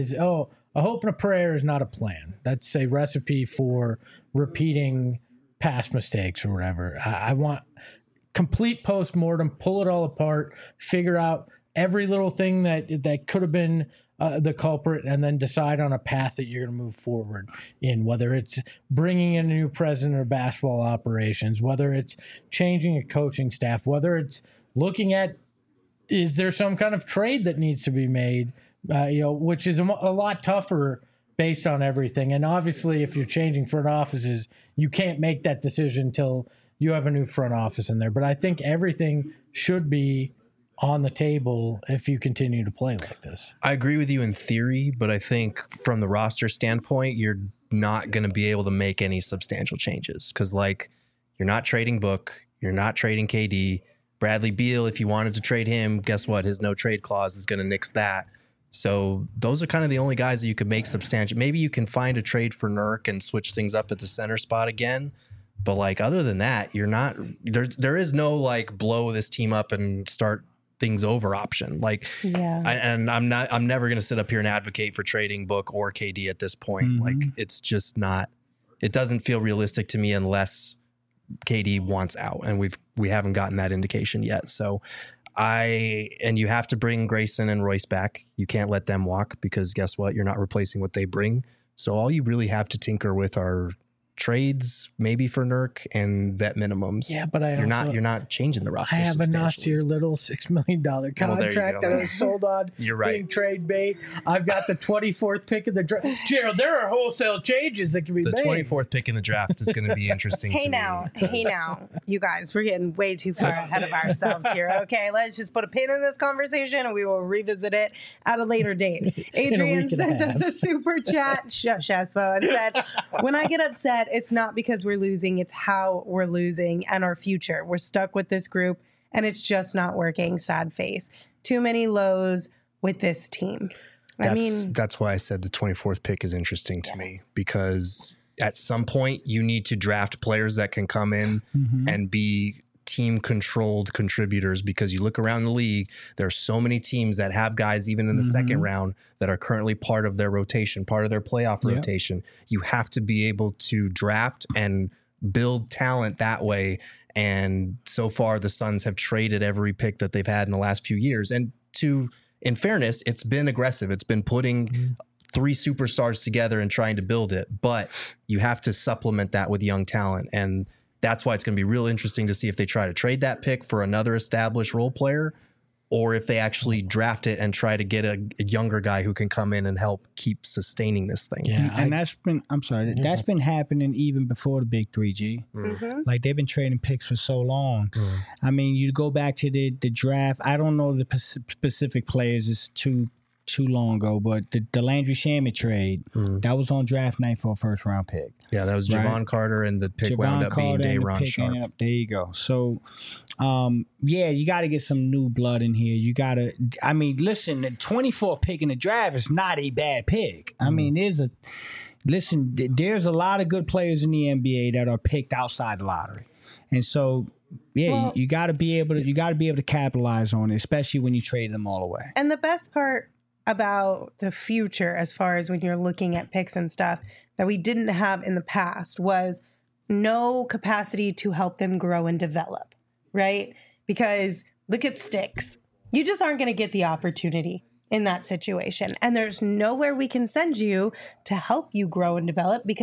A hope and a prayer is not a plan. That's a recipe for repeating past mistakes or whatever. I want complete postmortem, pull it all apart, figure out every little thing that could have been the culprit, and then decide on a path that you're going to move forward in, whether it's bringing in a new president of basketball operations, whether it's changing a coaching staff, whether it's looking at, is there some kind of trade that needs to be made, which is a lot tougher based on everything. And obviously, if you're changing front offices, you can't make that decision until you have a new front office in there. But I think everything should be on the table if you continue to play like this. I agree with you in theory, but I think from the roster standpoint, you're not going to be able to make any substantial changes, because, like, you're not trading Book, you're not trading KD. Bradley Beal, if you wanted to trade him, guess what? His no trade clause is going to nix that. So those are kind of the only guys that you could make substantial. Maybe you can find a trade for Nurk and switch things up at the center spot again. But, like, other than that, you're not there is no, like, blow this team up and start things over option. Like, I'm never going to sit up here and advocate for trading Book or KD at this point. Like, it's just not, it doesn't feel realistic to me unless KD wants out, and we haven't gotten that indication yet. So and you have to bring Grayson and Royce back. You can't let them walk, because guess what? You're not replacing what they bring. So all you really have to tinker with are trades, maybe for Nurk, and vet minimums. Yeah, but you're not changing the roster. I have a nastier little $6 million contract that I was sold on. You're right. Being trade bait. I've got the 24th pick of the draft. Gerald, there are wholesale changes that can be made. The 24th pick in the draft is going to be interesting. Hey now, you guys, we're getting way too far ahead of ourselves here. Okay, let's just put a pin in this conversation and we will revisit it at a later date. Adrian sent us a super chat, Shespo, and said, "When I get upset, it's not because we're losing, it's how we're losing and our future. We're stuck with this group and it's just not working. Sad face. Too many lows with this team." That's why I said the 24th pick is interesting to me, because at some point you need to draft players that can come in and be team controlled contributors, because you look around the league, there are so many teams that have guys even in the second round that are currently part of their rotation, part of their playoff rotation. You have to be able to draft and build talent that way. And so far the Suns have traded every pick that they've had in the last few years. And in fairness, it's been aggressive. It's been putting three superstars together and trying to build it, but you have to supplement that with young talent. And that's why it's going to be real interesting to see if they try to trade that pick for another established role player, or if they actually draft it and try to get a younger guy who can come in and help keep sustaining this thing. Yeah, and that's been happening even before the big 3G. Like, they've been trading picks for so long. I mean, you go back to the draft. I don't know the specific players. It's too long ago, but the Landry Shamet trade, that was on draft night for a first round pick. Yeah, that was Javon Carter, and the pick wound up being Day'Ron Sharpe. There you go. So, you got to get some new blood in here. You got to, I mean, listen, the 24th pick in the draft is not a bad pick. I mean, there's a lot of good players in the NBA that are picked outside the lottery. And so, you got to be able to capitalize on it, especially when you trade them all away. And the best part about the future, as far as when you're looking at picks and stuff, that we didn't have in the past was no capacity to help them grow and develop, right? Because look at Sticks. You just aren't going to get the opportunity in that situation. And there's nowhere we can send you to help you grow and develop, because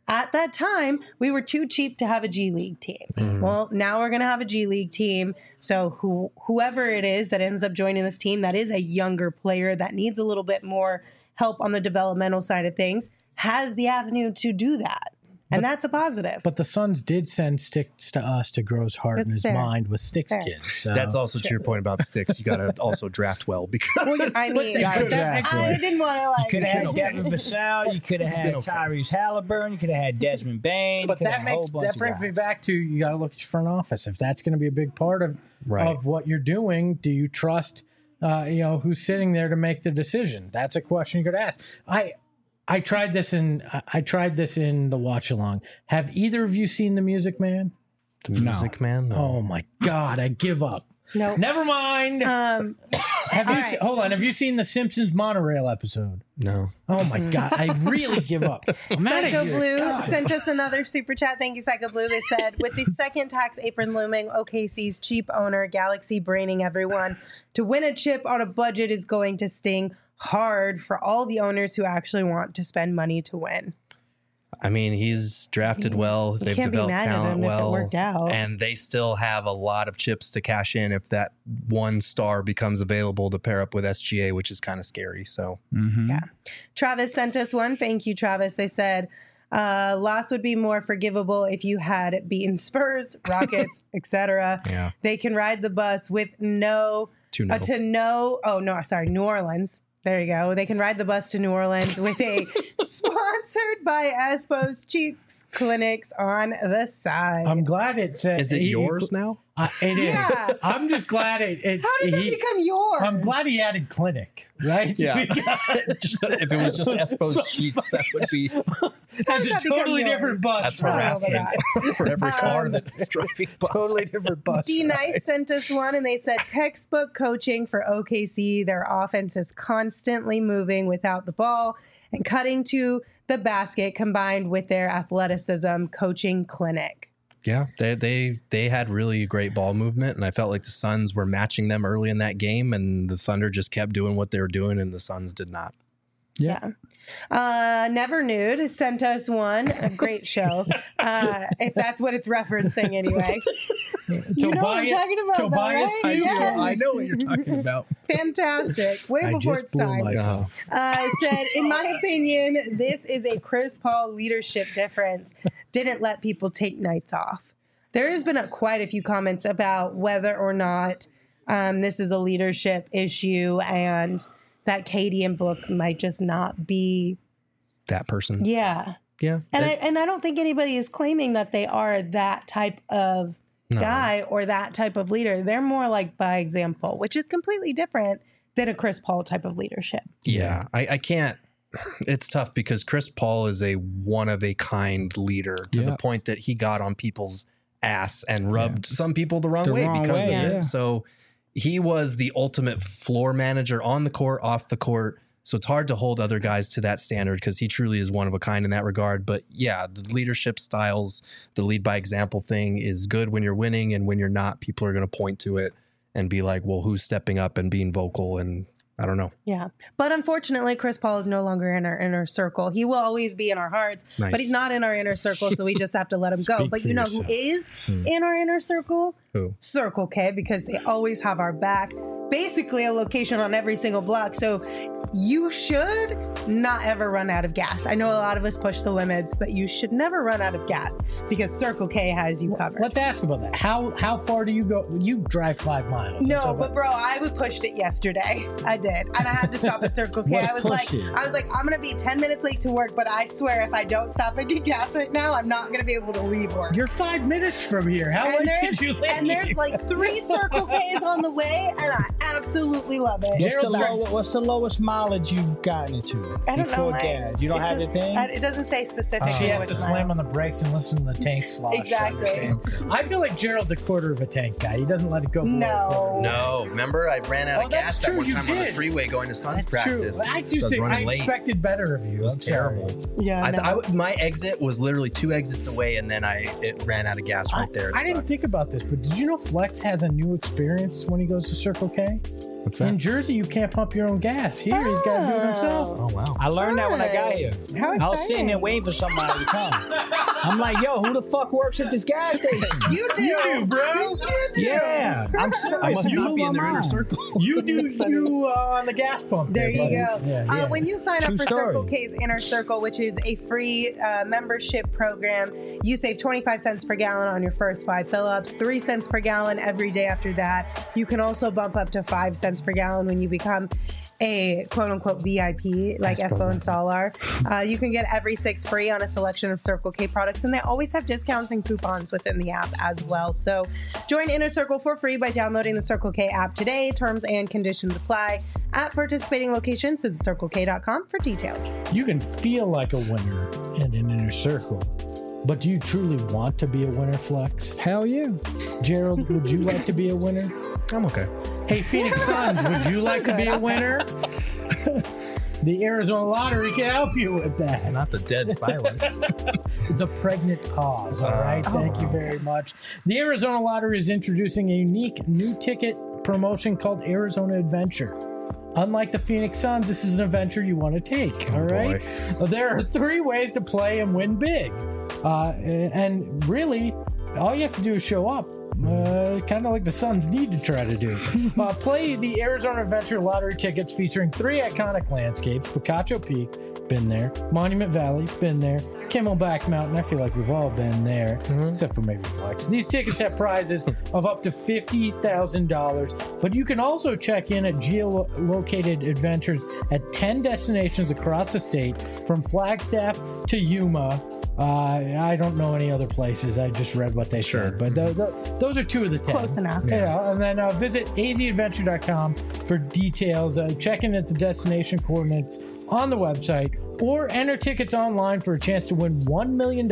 at that time, we were too cheap to have a G League team. Well, now we're going to have a G League team. So whoever it is that ends up joining this team that is a younger player that needs a little bit more help on the developmental side of things has the avenue to do that. And that's a positive. But the Suns did send Sticks to us to grow his heart and his mind with Sticks kids. So. That's also to your point about Sticks. You got to also draft well because I mean, I didn't want to like. You could have had Devin Vassell. You could have had Tyrese Halliburton. You could have had Desmond Bain. But that brings me back to you got to look at your front office. If that's going to be a big part of what you're doing, do you trust who's sitting there to make the decision? That's a question you could ask. I tried this in the watch along. Have either of you seen The Music Man? The Music Man? No. Oh my God, I give up. No. Never mind. Hold on. Have you seen the Simpsons monorail episode? No. Oh my God, I really give up. Psycho Blue sent us another super chat. Thank you, Psycho Blue. They said, with the second tax apron looming, OKC's cheap owner, Galaxy, braining everyone to win a chip on a budget is going to sting hard for all the owners who actually want to spend money to win. I mean, he's drafted well. They've developed talent well. And they still have a lot of chips to cash in if that one star becomes available to pair up with SGA, which is kind of scary. So, yeah. Travis sent us one. Thank you, Travis. They said, loss would be more forgivable if you had beaten Spurs, Rockets, etc. Yeah. They can ride the bus with New Orleans. There you go. They can ride the bus to New Orleans with a sponsored by Espo's Cheeks Clinics on the side. I'm glad it said. Is it yours now? It is. Yeah. I'm just glad it. How did that become yours? I'm glad he added clinic, right? Yeah. If it was just Espo's Cheeks, that would be. That's a totally different bus. That's harassment for every car that's driving by. Totally different bus. D-Nice sent us one, and they said textbook coaching for OKC. Their offense is constantly moving without the ball and cutting to the basket, combined with their athleticism coaching clinic. Yeah, they had really great ball movement, and I felt like the Suns were matching them early in that game, and the Thunder just kept doing what they were doing, and the Suns did not. Yeah. Never Nude sent us one. A great show. If that's what it's referencing anyway. You know what I'm talking about, Tobias, though, right? Yes. I know what you're talking about. Fantastic. Way before it's time. Said, in my opinion, this is a Chris Paul leadership difference. Didn't let people take nights off. There has been quite a few comments about whether or not this is a leadership issue and that Katie and Book might just not be that person. Yeah. Yeah. And I don't think anybody is claiming that they are that type of guy or that type of leader. They're more like by example, which is completely different than a Chris Paul type of leadership. Yeah. I can't. It's tough because Chris Paul is a one-of-a-kind leader to the point that he got on people's ass and rubbed some people the wrong way because of it. So he was the ultimate floor manager on the court, off the court. So it's hard to hold other guys to that standard because he truly is one of a kind in that regard. But yeah, the leadership styles, the lead by example thing is good when you're winning, and when you're not, people are going to point to it and be like, well, who's stepping up and being vocal? And I don't know. Yeah. But unfortunately, Chris Paul is no longer in our inner circle. He will always be in our hearts, but he's not in our inner circle. So we just have to let him go. But you know who is in our inner circle? Who? Circle K, because they always have our back. Basically a location on every single block. So you should not ever run out of gas. I know a lot of us push the limits, but you should never run out of gas because Circle K has you covered. Let's ask about that. How far do you go? You drive 5 miles. No, but bro, I pushed it yesterday. I did. And I had to stop at Circle K. I was like, I'm going to be 10 minutes late to work, but I swear if I don't stop and get gas right now, I'm not going to be able to leave work. You're 5 minutes from here. How late did you leave? And there's like 3 Circle Ks on the way, and I absolutely love it. What's the lowest mileage you've gotten into? I don't know. Gas? You don't have the thing? It doesn't say specifically. She has to slam on the brakes and listen to the tank slosh. Exactly. I feel like Gerald's a quarter of a tank guy. He doesn't let it go below a quarter. No. Remember, I ran out of gas that one time on the freeway going to Suns practice. I expected better of you. It was terrible. Yeah. My exit was literally 2 exits away, and then it ran out of gas right there. I didn't think about this, but did you know Flex has a new experience when he goes to Circle K? What's that? In Jersey, you can't pump your own gas. Here, he's got to do it himself. Oh wow. I learned that when I got here. How I was sitting there exciting. waiting for somebody to come. I'm like, yo, who the fuck works at this gas station? You do, bro. You do. Yeah, I'm serious. I must You not blew be in my their inner mind. circle. You do you on the gas pump. There you buddy. go. Yeah. When you sign True up for story. Circle K's Inner Circle, which is a free membership program, you save 25 cents per gallon on your first 5 fill-ups, 3 cents per gallon every day after that. You can also bump up to 5 cents per gallon when you become a quote-unquote VIP, like Espo and Saul are. You can get every 6 free on a selection of Circle K products, and they always have discounts and coupons within the app as well. So join Inner Circle for free by downloading the Circle K app today. Terms and conditions apply. At participating locations, visit CircleK.com for details. You can feel like a winner in an inner circle, but do you truly want to be a winner, Flex? Hell yeah. Gerald, would you like to be a winner? I'm okay. Hey, Phoenix Suns, would you like to be a winner? The Arizona Lottery can help you with that. Not the dead silence. It's a pregnant pause, all right? Thank you very much. The Arizona Lottery is introducing a unique new ticket promotion called Arizona Adventure. Unlike the Phoenix Suns, this is an adventure you want to take, all right? There are 3 ways to play and win big. And really, all you have to do is show up. Kind of like the Suns need to try to do. Play the Arizona Adventure Lottery tickets featuring 3 iconic landscapes: Picacho Peak, been there; Monument Valley, been there; Camelback Mountain, I feel like we've all been there, except for maybe Flex. These tickets have prizes of up to $50,000, but you can also check in at geolocated adventures at 10 destinations across the state, from Flagstaff to Yuma. I don't know any other places. I just read what they said, but those are 2 of the 10. Close enough. Yeah, and then visit azadventure.com for details. Check in at the destination coordinates on the website, or enter tickets online for a chance to win $1 million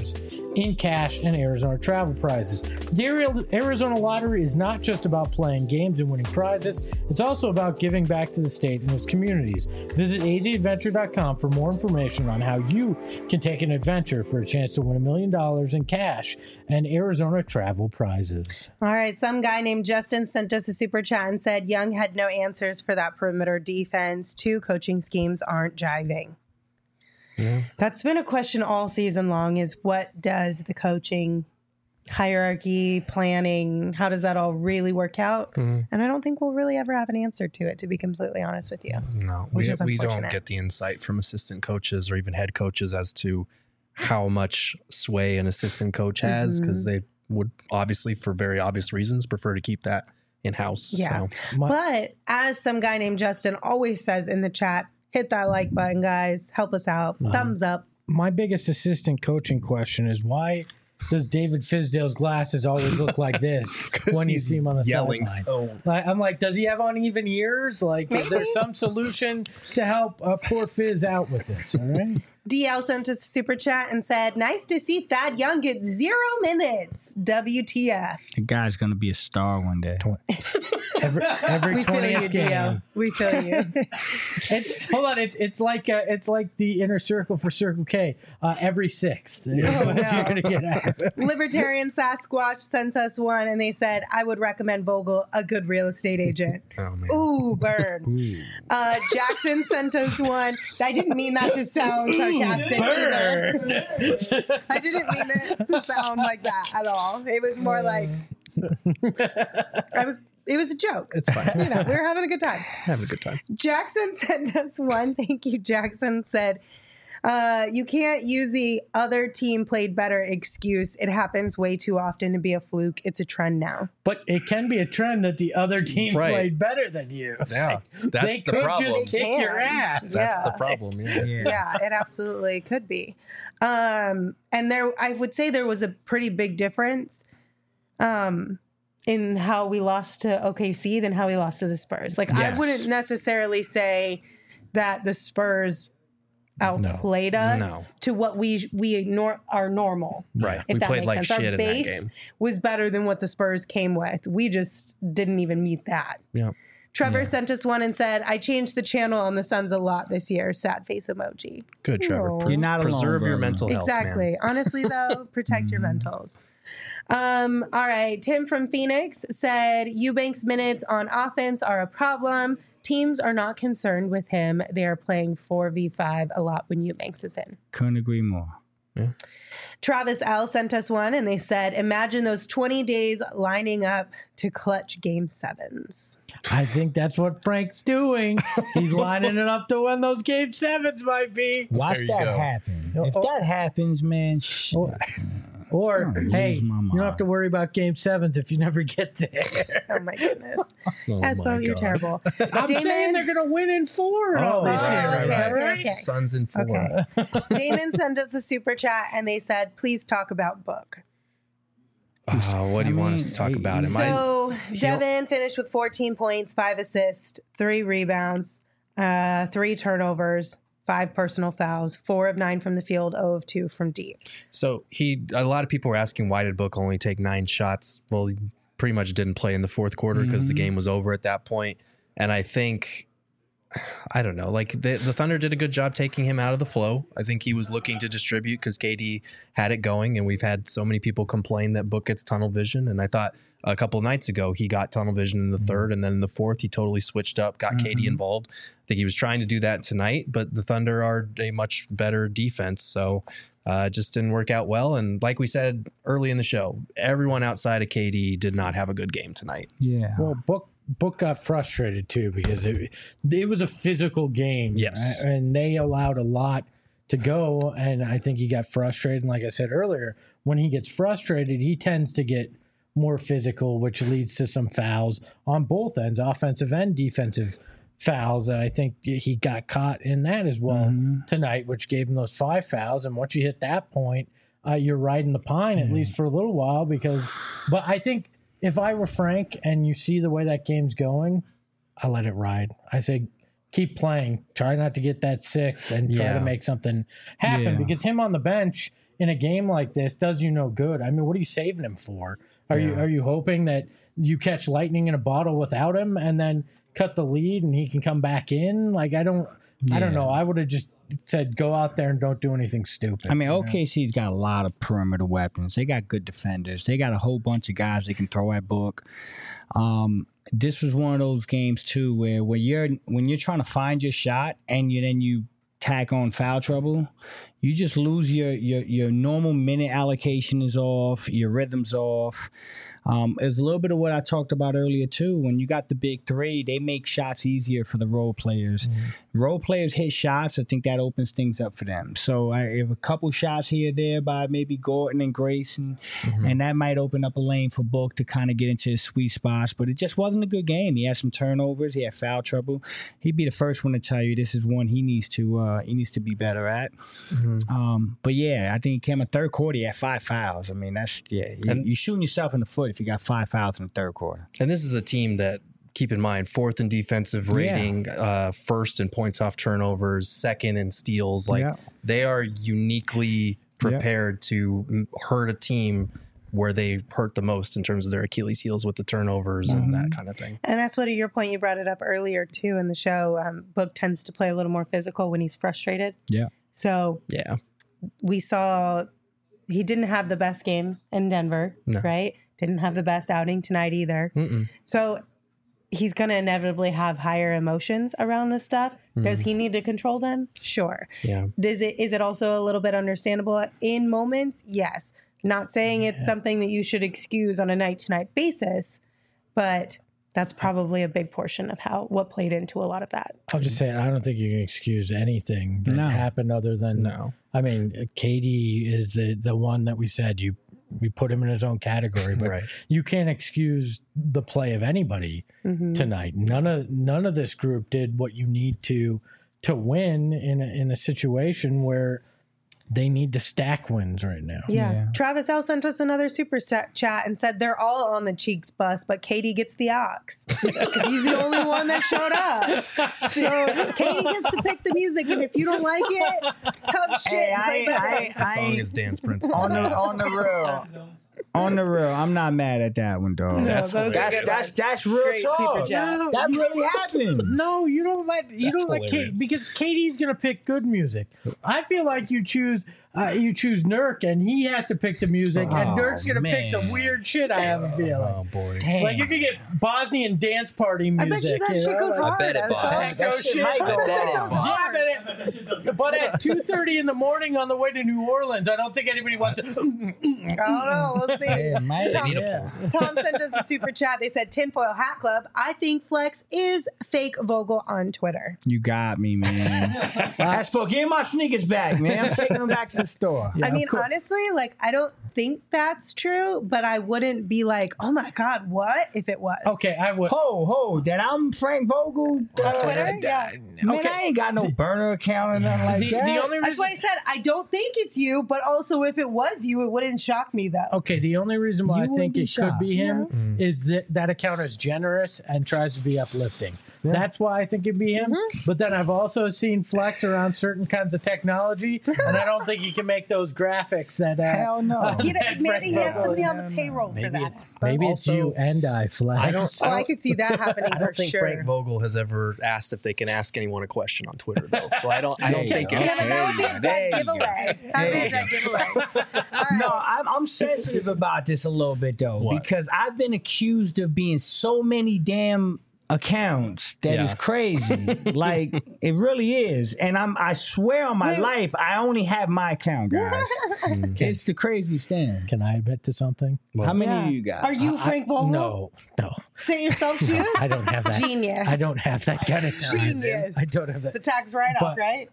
in cash and Arizona travel prizes. The Arizona Lottery is not just about playing games and winning prizes. It's also about giving back to the state and its communities. Visit azadventure.com for more information on how you can take an adventure for a chance to win $1 million in cash and Arizona travel prizes. All right, some guy named Justin sent us a super chat and said Young had no answers for that perimeter defense. 2 coaching schemes aren't jiving. Yeah. That's been a question all season long, is what does the coaching hierarchy, planning, how does that all really work out? And I don't think we'll really ever have an answer to it, to be completely honest with you. No, Which we is don't unfortunate. get the insight from assistant coaches or even head coaches as to how much sway an assistant coach has, because they would obviously, for very obvious reasons, prefer to keep that in-house. Yeah. So. But as some guy named Justin always says in the chat, hit that like button, guys. Help us out. Thumbs up. My biggest assistant coaching question is, why does David Fizdale's glasses always look like this when you see him on the yelling sideline? I'm like, does he have uneven ears? Like, is there some solution to help poor Fizz out with this? All right. DL sent us a super chat and said, nice to see Thad Young get 0 minutes. WTF. The guy's gonna be a star one day. Every We feel 20th you, game. DL. We feel you. Hold on, it's like the inner circle for Circle K. Every 6th is Oh, what no. you're gonna get out of it. Libertarian Sasquatch sent us one and they said, I would recommend Vogel a good real estate agent. Oh man. Ooh, burn. Jackson sent us one. I didn't mean that to sound sarcastic either. I didn't mean it to sound like that at all. It was more like it was a joke. It's fine. You know, we were having a good time. Having a good time. Jackson sent us one. Thank you, Jackson. Said, you can't use the other team played better excuse. It happens way too often to be a fluke. It's a trend now. But it can be a trend that the other team Right. played better than you. Yeah, They that's the could problem. just kick They your can. ass. That's Yeah. the problem. Yeah. Yeah, it absolutely could be. And there, I would say there was a pretty big difference in how we lost to OKC than how we lost to the Spurs. Like, Yes. I wouldn't necessarily say that the Spurs outplayed us No. to what are normal. Right. If We that played makes like sense. shit Our in that base game. was better than what the Spurs came with. We just didn't even meet that. Yeah. Trevor sent us one and said, I changed the channel on the Suns a lot this year. Sad face emoji. Good, Trevor. No. You're not alone, Preserve your brother. mental health, man. Exactly. Honestly, though, protect your mentals. All right. Tim from Phoenix said Eubanks' minutes on offense are a problem. Teams are not concerned with him. They are playing 4v5 a lot when Eubanks is in. Couldn't agree more. Yeah. Travis L sent us one, and they said, imagine those 20 days lining up to clutch game 7s. I think that's what Frank's doing. He's lining it up to when those game 7s might be. Watch There you that go. happen. If that happens, man, shit. Or, I'm hey, losing my you don't have mind. to worry about game 7s if you never get there. Oh, my goodness. Oh Espo, my you're God. terrible. I'm saying they're going to win in 4 Oh, this year. right, Is that right. right? Okay. Suns in 4. Okay. Damon sent us a super chat, and they said, please talk about Book. What do you want us mean, to talk about? Am So Devin finished with 14 points, 5 assists, 3 rebounds, 3 turnovers, 5 personal fouls, 4 of 9 from the field, 0 of 2 from deep. So a lot of people were asking, why did Book only take 9 shots? Well, he pretty much didn't play in the fourth quarter because the game was over at that point. And I think, I don't know, like the Thunder did a good job taking him out of the flow. I think he was looking to distribute because KD had it going, and we've had so many people complain that Book gets tunnel vision. And I thought a couple of nights ago he got tunnel vision in the third, and then in the fourth he totally switched up, got KD involved. I think he was trying to do that tonight, but the Thunder are a much better defense, so it just didn't work out well. And like we said early in the show, everyone outside of KD did not have a good game tonight. Yeah. Well, Book got frustrated too because it was a physical game. Yes. And they allowed a lot to go. And I think he got frustrated. And like I said earlier, when he gets frustrated, he tends to get more physical, which leads to some fouls on both ends, offensive and defensive fouls. And I think he got caught in that as well tonight, which gave him those 5 fouls. And once you hit that point, you're riding the pine, at least for a little while, but I think, if I were Frank and you see the way that game's going, I let it ride. I say, keep playing. Try not to get that 6 and try to make something happen. Yeah. Because him on the bench in a game like this does you no good. I mean, what are you saving him for? Are you hoping that you catch lightning in a bottle without him and then cut the lead and he can come back in? Like, I don't know. I would have just said, go out there and don't do anything stupid. I mean, OKC's got a lot of perimeter weapons. They got good defenders. They got a whole bunch of guys they can throw at Book. This was one of those games too where when you're trying to find your shot and you tack on foul trouble, you just lose your normal minute allocation is off, your rhythm's off. It's a little bit of what I talked about earlier too. When you got the big 3, they make shots easier for the role players. Role players hit shots, I think that opens things up for them. So if a couple shots here or there by maybe Gordon and Grayson, and that might open up a lane for Book to kind of get into his sweet spots. But it just wasn't a good game. He had some turnovers. He had foul trouble. He'd be the first one to tell you this is one he needs to be better at. But yeah, I think he came in third quarter. He had 5 fouls. I mean, you're shooting yourself in the foot if you got 5 fouls in the third quarter. And this is a team that, keep in mind, 4th in defensive rating, 1st in points off turnovers, 2nd in steals. They are uniquely prepared to hurt a team where they hurt the most in terms of their Achilles heels with the turnovers and that kind of thing. And that's what, to your point, you brought it up earlier too in the show. Book tends to play a little more physical when he's frustrated. Yeah. So Yeah. we saw he didn't have the best game in Denver, right? Didn't have the best outing tonight either. So he's going to inevitably have higher emotions around this stuff. Does he need to control them? Sure. Yeah. Is it also a little bit understandable in moments? Yes. Not saying it's something that you should excuse on a night-to-night basis, but that's probably a big portion of what played into a lot of that. I'll just say, I don't think you can excuse anything that happened other than, I mean, KD is the one that we said we put him in his own category, but you can't excuse the play of anybody tonight. None of this group did what you need to win in a situation where they need to stack wins right now. Yeah. Travis L sent us another super chat and said they're all on the Cheeks bus, but Katie gets the ox because he's the only one that showed up. So Katie gets to pick the music, and if you don't like it, tough shit. The song is Dance Princess. On the real, I'm not mad at that one, dog. No, that's real Great talk. super chat. That really happened. No, you don't let Katie, because Katie's gonna pick good music. I feel like you choose you choose Nurk, and he has to pick the music, and Oh, Nurk's gonna pick man. some weird shit. I have a feeling. Oh boy. Damn. Like you could get Bosnian dance party music. I bet you that shit goes hard. bet it as does. well. That Techno shit. might go I bet it wrong. goes Yeah, hard. but at 2:30 in the morning on the way to New Orleans, I don't think anybody wants to. I don't know. We'll see. Yeah, might They need a Yeah. pulse. Tom sent us a super chat. They said Tinfoil Hat Club. I think Flex is fake Vogel on Twitter. You got me, man. That's for give my sneakers back, man. I'm taking them back to the store. Yeah, I mean, of course. honestly, like I don't think that's true, but I wouldn't be like, oh my God, what if it was? Okay, I would. Ho, that I'm Frank Vogel. Twitter? Yeah. Man, Okay. I ain't got no burner account or nothing like The that. only That's reason. why I said I don't think it's you, but also if it was you, it wouldn't shock me though. Okay, the only reason why You I wouldn't think be it could shocked. be him is that that account is generous and tries to be uplifting. That's why I think it'd be him. But then I've also seen Flex around certain kinds of technology, and I don't think he can make those graphics that. Hell no. Maybe that he Frank has Vogel somebody is. on the payroll for Maybe that. it's maybe it's Also, you and I, Flex. I could see that happening I for don't think sure. Frank Vogel has ever asked if they can ask anyone a question on Twitter though. So I don't There you think go. it's Kevin, that would be a There dead you go. giveaway. That would be a dead giveaway. All No, right. I'm sensitive about this a little bit though, What? because I've been accused of being so many damn accounts that Yeah. is crazy. Like it really is, and I swear on my life, I only have my account, guys. It's the craziest thing. Can I admit to something? How many Yeah. of you got? Are you Frank Vogel? No. Say it yourself, too? I don't have that. Genius. I don't have that kind of time. Genius. I don't have that. It's a tax write-off, But right?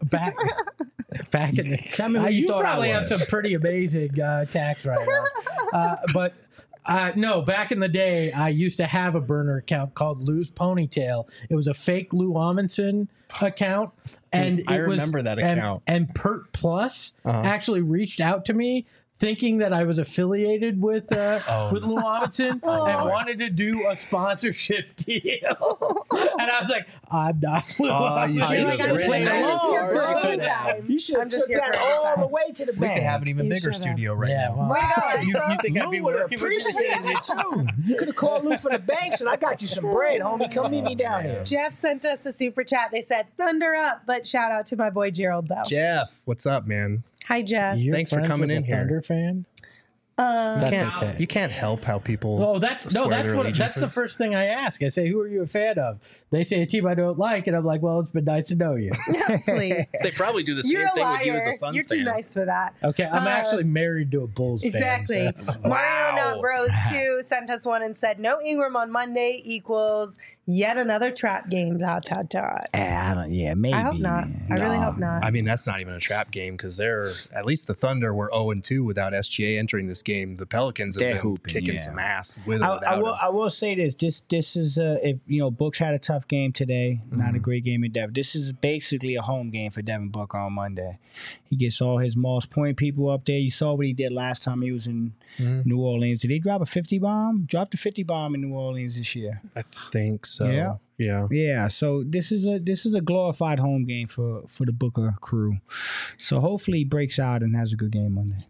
back in the Tell me who you you thought I probably have was. some pretty amazing tax write-offs. But no, back in the day, I used to have a burner account called Lou's Ponytail. It was a fake Lou Amundsen account, and I it was, remember that and- account. And Pert Plus actually reached out to me, thinking that I was affiliated with Lou Amundsen and wanted to do a sponsorship deal. And I was like, I'm not Lou you Amundsen. should You're have like, played I'm just here for a along. good time. You should I'm have just took here for that a good all time. the way to the We bank. could have an even You bigger should've. studio right Yeah, now. well, Way to go. you think I'd be Lou would have working with you? appreciated it too. You could have called Lou for the banks, and I got you some bread, homie. Come meet me down here. Jeff sent us a super chat. They said, thunder up, but shout out to my boy Gerald, though. Jeff, what's up, man? Hi, Jeff. You're Thanks for friends coming with in a here. Thunder fan? That's okay. You can't help how people. Oh, that's swear that's their what that's the allegiances. first thing I ask. I say, "Who are you a fan of?" They say a team I don't like, and I'm like, "Well, it's been nice to know you." Please. They probably do the same You're a thing with you as a liar. Suns You're too fan. nice for that. Okay, I'm actually married to a Bulls Exactly. fan. So. Mario Not Bros 2 sent us one and said, no Ingram on Monday equals yet another trap game. Dot, dot, dot. I don't. Yeah, maybe. I hope not. I really hope not. I mean, that's not even a trap game because they're at least the Thunder were 0-2 without SGA entering this game. The Pelicans have They're been hooping, kicking yeah. some ass with or I without will. him. I will say this. This is if Books had a tough game today. Not a great game in Devin. This is basically a home game for Devin Booker on Monday. He gets all his Moss Point people up there. You saw what he did last time he was in New Orleans. Did he drop a 50 bomb? Dropped a 50 bomb in New Orleans this year. I think so. Yeah. Yeah. Yeah, so this is a glorified home game for the Booker crew. So hopefully he breaks out and has a good game Monday.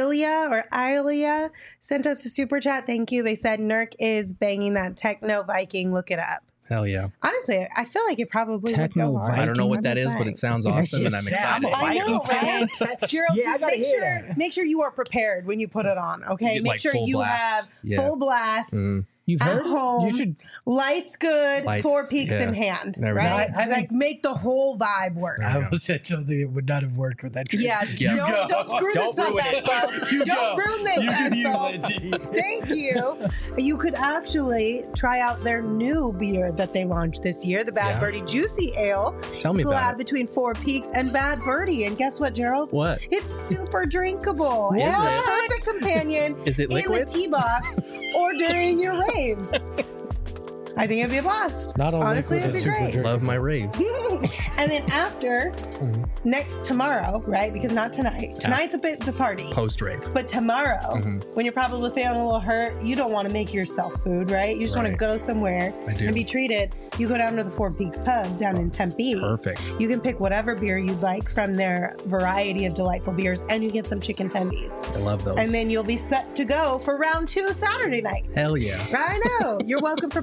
Ilya sent us a super chat. Thank you. They said Nurk is banging that techno Viking. Look it up. Hell yeah. Honestly, I feel like it probably Techno would go hard. Viking? I don't know what I'm that just is, but saying. it sounds awesome, and I'm excited. I'm a I know, Viking fan. right? Gerald, Yeah, I just gotta make hear sure that. make sure you are prepared when you put it on. Okay, You- make like sure full you blast. have Yeah. full blast You've at heard? home. You should. Lights good, Lights, 4 peaks yeah. in hand, There we go. right? I think- like make the whole vibe work. There I we go. almost said something that would not have worked with that. Yeah, Yeah. don't screw Don't this up, ruin it. Espo. Don't ruin this, Espo. Thank you. You could actually try out their new beer that they launched this year, the Bad Yeah. Birdie Juicy Ale. Tell me it's a about collab it. between 4 Peaks and Bad Birdie. And guess what, Gerald? What? It's super drinkable. Is it's a it? perfect companion Is it in liquid? the tea box or during your raves. I think it'd be a blast. Not all Honestly, liquid it'd is be super great. drinkable. Love my raves. And then after tomorrow, right? Because not tonight. Tonight's a bit the party. Post rave. But tomorrow, Mm-hmm. when you're probably feeling a little hurt, you don't want to make yourself food, right? You just want to Right. go somewhere I do. and be treated. You go down to the 4 Peaks pub down in Tempe. Perfect. You can pick whatever beer you'd like from their variety of delightful beers, and you get some chicken tendies. I love those. And then you'll be set to go for round 2 Saturday night. Hell yeah. I know. You're welcome for planning your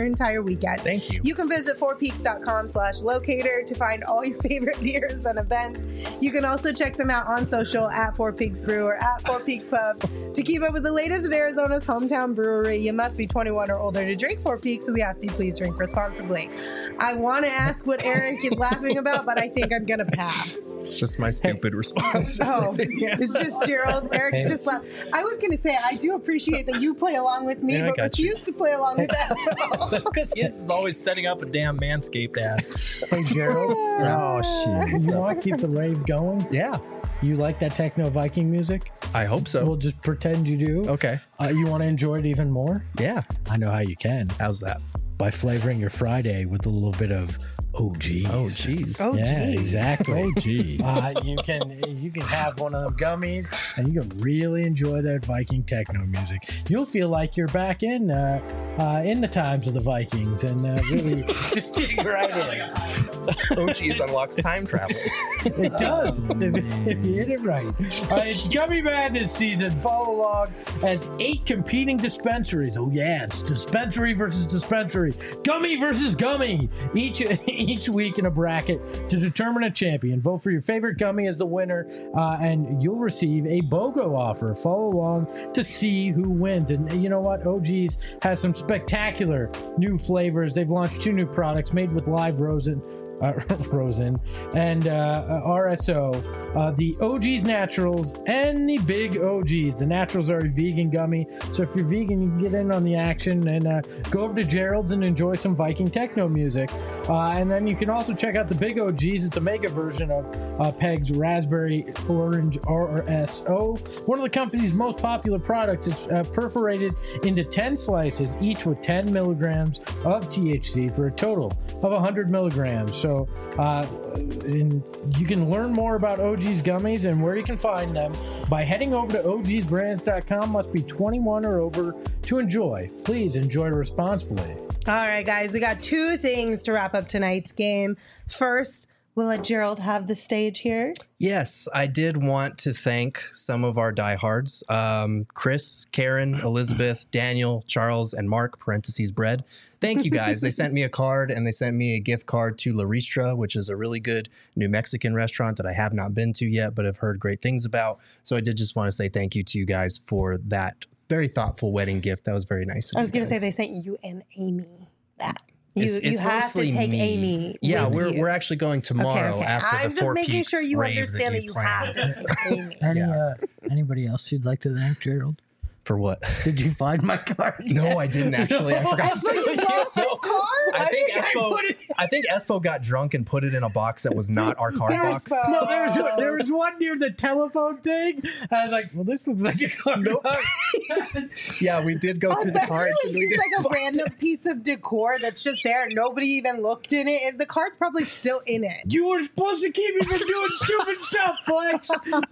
your entire weekend. Thank you. You can visit fourpeaks.com/locator to find all your favorite beers and events. You can also check them out on social at Four Peaks Brew or at Four Peaks Pub. To keep up with the latest in Arizona's hometown brewery, you must be 21 or older to drink Four Peaks, so we ask you please drink responsibly. I want to ask what Eric is laughing about, but I think I'm going to pass. It's just my stupid response. Oh, it's just Gerald. Eric's just laughing. I was going to say, I do appreciate that you play along with me, Yeah, I but got you. refuse to play along with that. That's because he is always setting up a damn Manscaped ad. Hey, Gerald. Oh shit. You want to keep the rave going? Yeah, You like that techno Viking music? I hope so. We'll just pretend you do. Okay. You want to enjoy it even more? Yeah. I know how you can. How's that? By flavoring your Friday with a little bit of OGs. Oh, jeez. Oh, Yeah, geez. exactly. Oh gee. You can have one of them gummies, and you can really enjoy that Viking techno music. You'll feel like you're back in the times of the Vikings, and really just dig right in. OGs unlocks time travel. It does if you hit it right. It's Gummy Madness season. Follow along as 8 competing dispensaries. Oh yeah, it's dispensary versus dispensary, gummy versus gummy. Each week in a bracket to determine a champion. Vote for your favorite gummy as the winner, and you'll receive a BOGO offer. Follow along to see who wins. And you know what? OG's has some spectacular new flavors. They've launched 2 new products made with live rosin and RSO, the OG's Naturals and the Big OGs. The Naturals are a vegan gummy, so if you're vegan, you can get in on the action and go over to Gerald's and enjoy some Viking techno music. And then you can also check out the Big OGs. It's a mega version of Peg's Raspberry Orange RSO, one of the company's most popular products. It's perforated into 10 slices, each with 10 milligrams of THC for a total of 100 milligrams. So and you can learn more about OG's gummies and where you can find them by heading over to ogsbrands.com. Must be 21 or over to enjoy. Please enjoy responsibly. All right, guys, we got 2 things to wrap up tonight's game. First, we'll let Gerald have the stage here. Yes, I did want to thank some of our diehards. Chris, Karen, Elizabeth, Daniel, Charles, and Mark, parentheses bread. Thank you guys. They sent me a card and they sent me a gift card to La Ristra, which is a really good New Mexican restaurant that I have not been to yet, but have heard great things about. So I did just want to say thank you to you guys for that very thoughtful wedding gift. That was very nice. I was going to say they sent you and Amy that. You It's have to mostly take me. Amy. Yeah, with you. we're actually going tomorrow Okay. after I'm the just 4 making Peaks sure you rave understand that we you planned. have to take Amy. Anybody else you'd like to thank, Gerald? For what? Did you find my card? No, I didn't actually. I forgot to Espo, you lost his card? I think Espo got drunk and put it in a box that was not our card box. Espo. No, there was one near the telephone thing. I was like, well, this looks like a card. Nope. Yeah, we did go through That's the cards. actually just like a random piece of decor that's just there. Nobody even looked in it. The card's probably still in it. You were supposed to keep me from doing stupid stuff, Flex.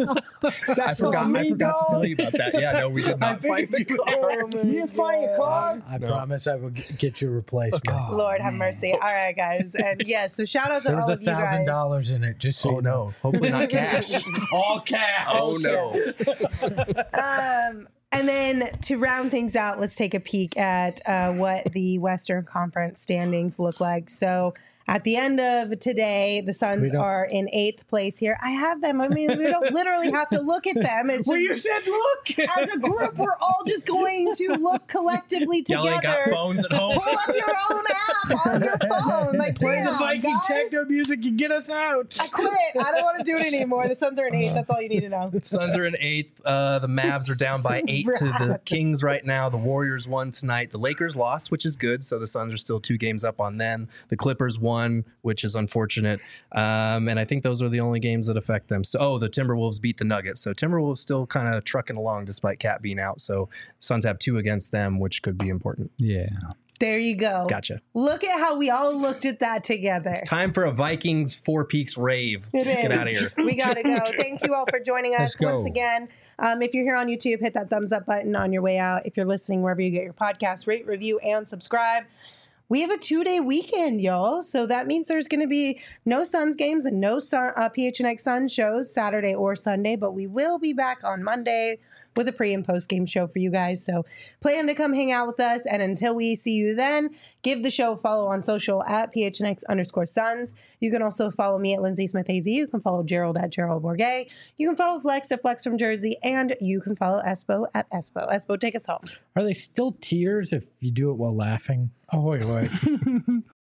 I forgot to tell you about that. Yeah, no, we did not find the card. You didn't find your card? I promise I will get you a replacement. Lord have mercy. All right, guys. And yeah, so shout out to There was all of you guys. $1,000 in it. Just so Oh you know. no, hopefully not cash. All cash. Oh no. And then to round things out, let's take a peek at what the Western Conference standings look like. So at the end of today, the Suns are in 8th place here. I have them. I mean, we don't literally have to look at them. It's Well, just, you said look. as a group, we're all just going to look collectively Y'all ain't got together. phones at home. Pull up your own app on your phone. Like, Play the damn, Viking guys. techno music and get us out. I quit. I don't want to do it anymore. The Suns are in 8th. That's all you need to know. Suns are in 8th. The Mavs are down by 8 to the Kings right now. The Warriors won tonight. The Lakers lost, which is good. So the Suns are still 2 games up on them. The Clippers won, which is unfortunate. And I think those are the only games that affect them. So, the Timberwolves beat the Nuggets. So Timberwolves still kind of trucking along despite Cat being out. So Suns have 2 against them, which could be important. Yeah. There you go. Gotcha. Look at how we all looked at that together. It's time for a Vikings 4 Peaks rave. It Let's get is. out of here. We got to go. Thank you all for joining us Let's go. once again. If you're here on YouTube, hit that thumbs up button on your way out. If you're listening wherever you get your podcast, rate, review, and subscribe. We have a 2-day weekend, y'all. So that means there's going to be no Suns games and no PHNX Sun shows Saturday or Sunday, but we will be back on Monday with a pre and post game show for you guys. So plan to come hang out with us. And until we see you then, give the show a follow on social at PHNX_Suns. You can also follow me at Lindsay Smith AZ. You can follow Gerald at Gerald Bourget. You can follow Flex at Flex from Jersey. And you can follow Espo at Espo. Espo, take us home. Are they still tears if you do it while laughing? Oh, wait.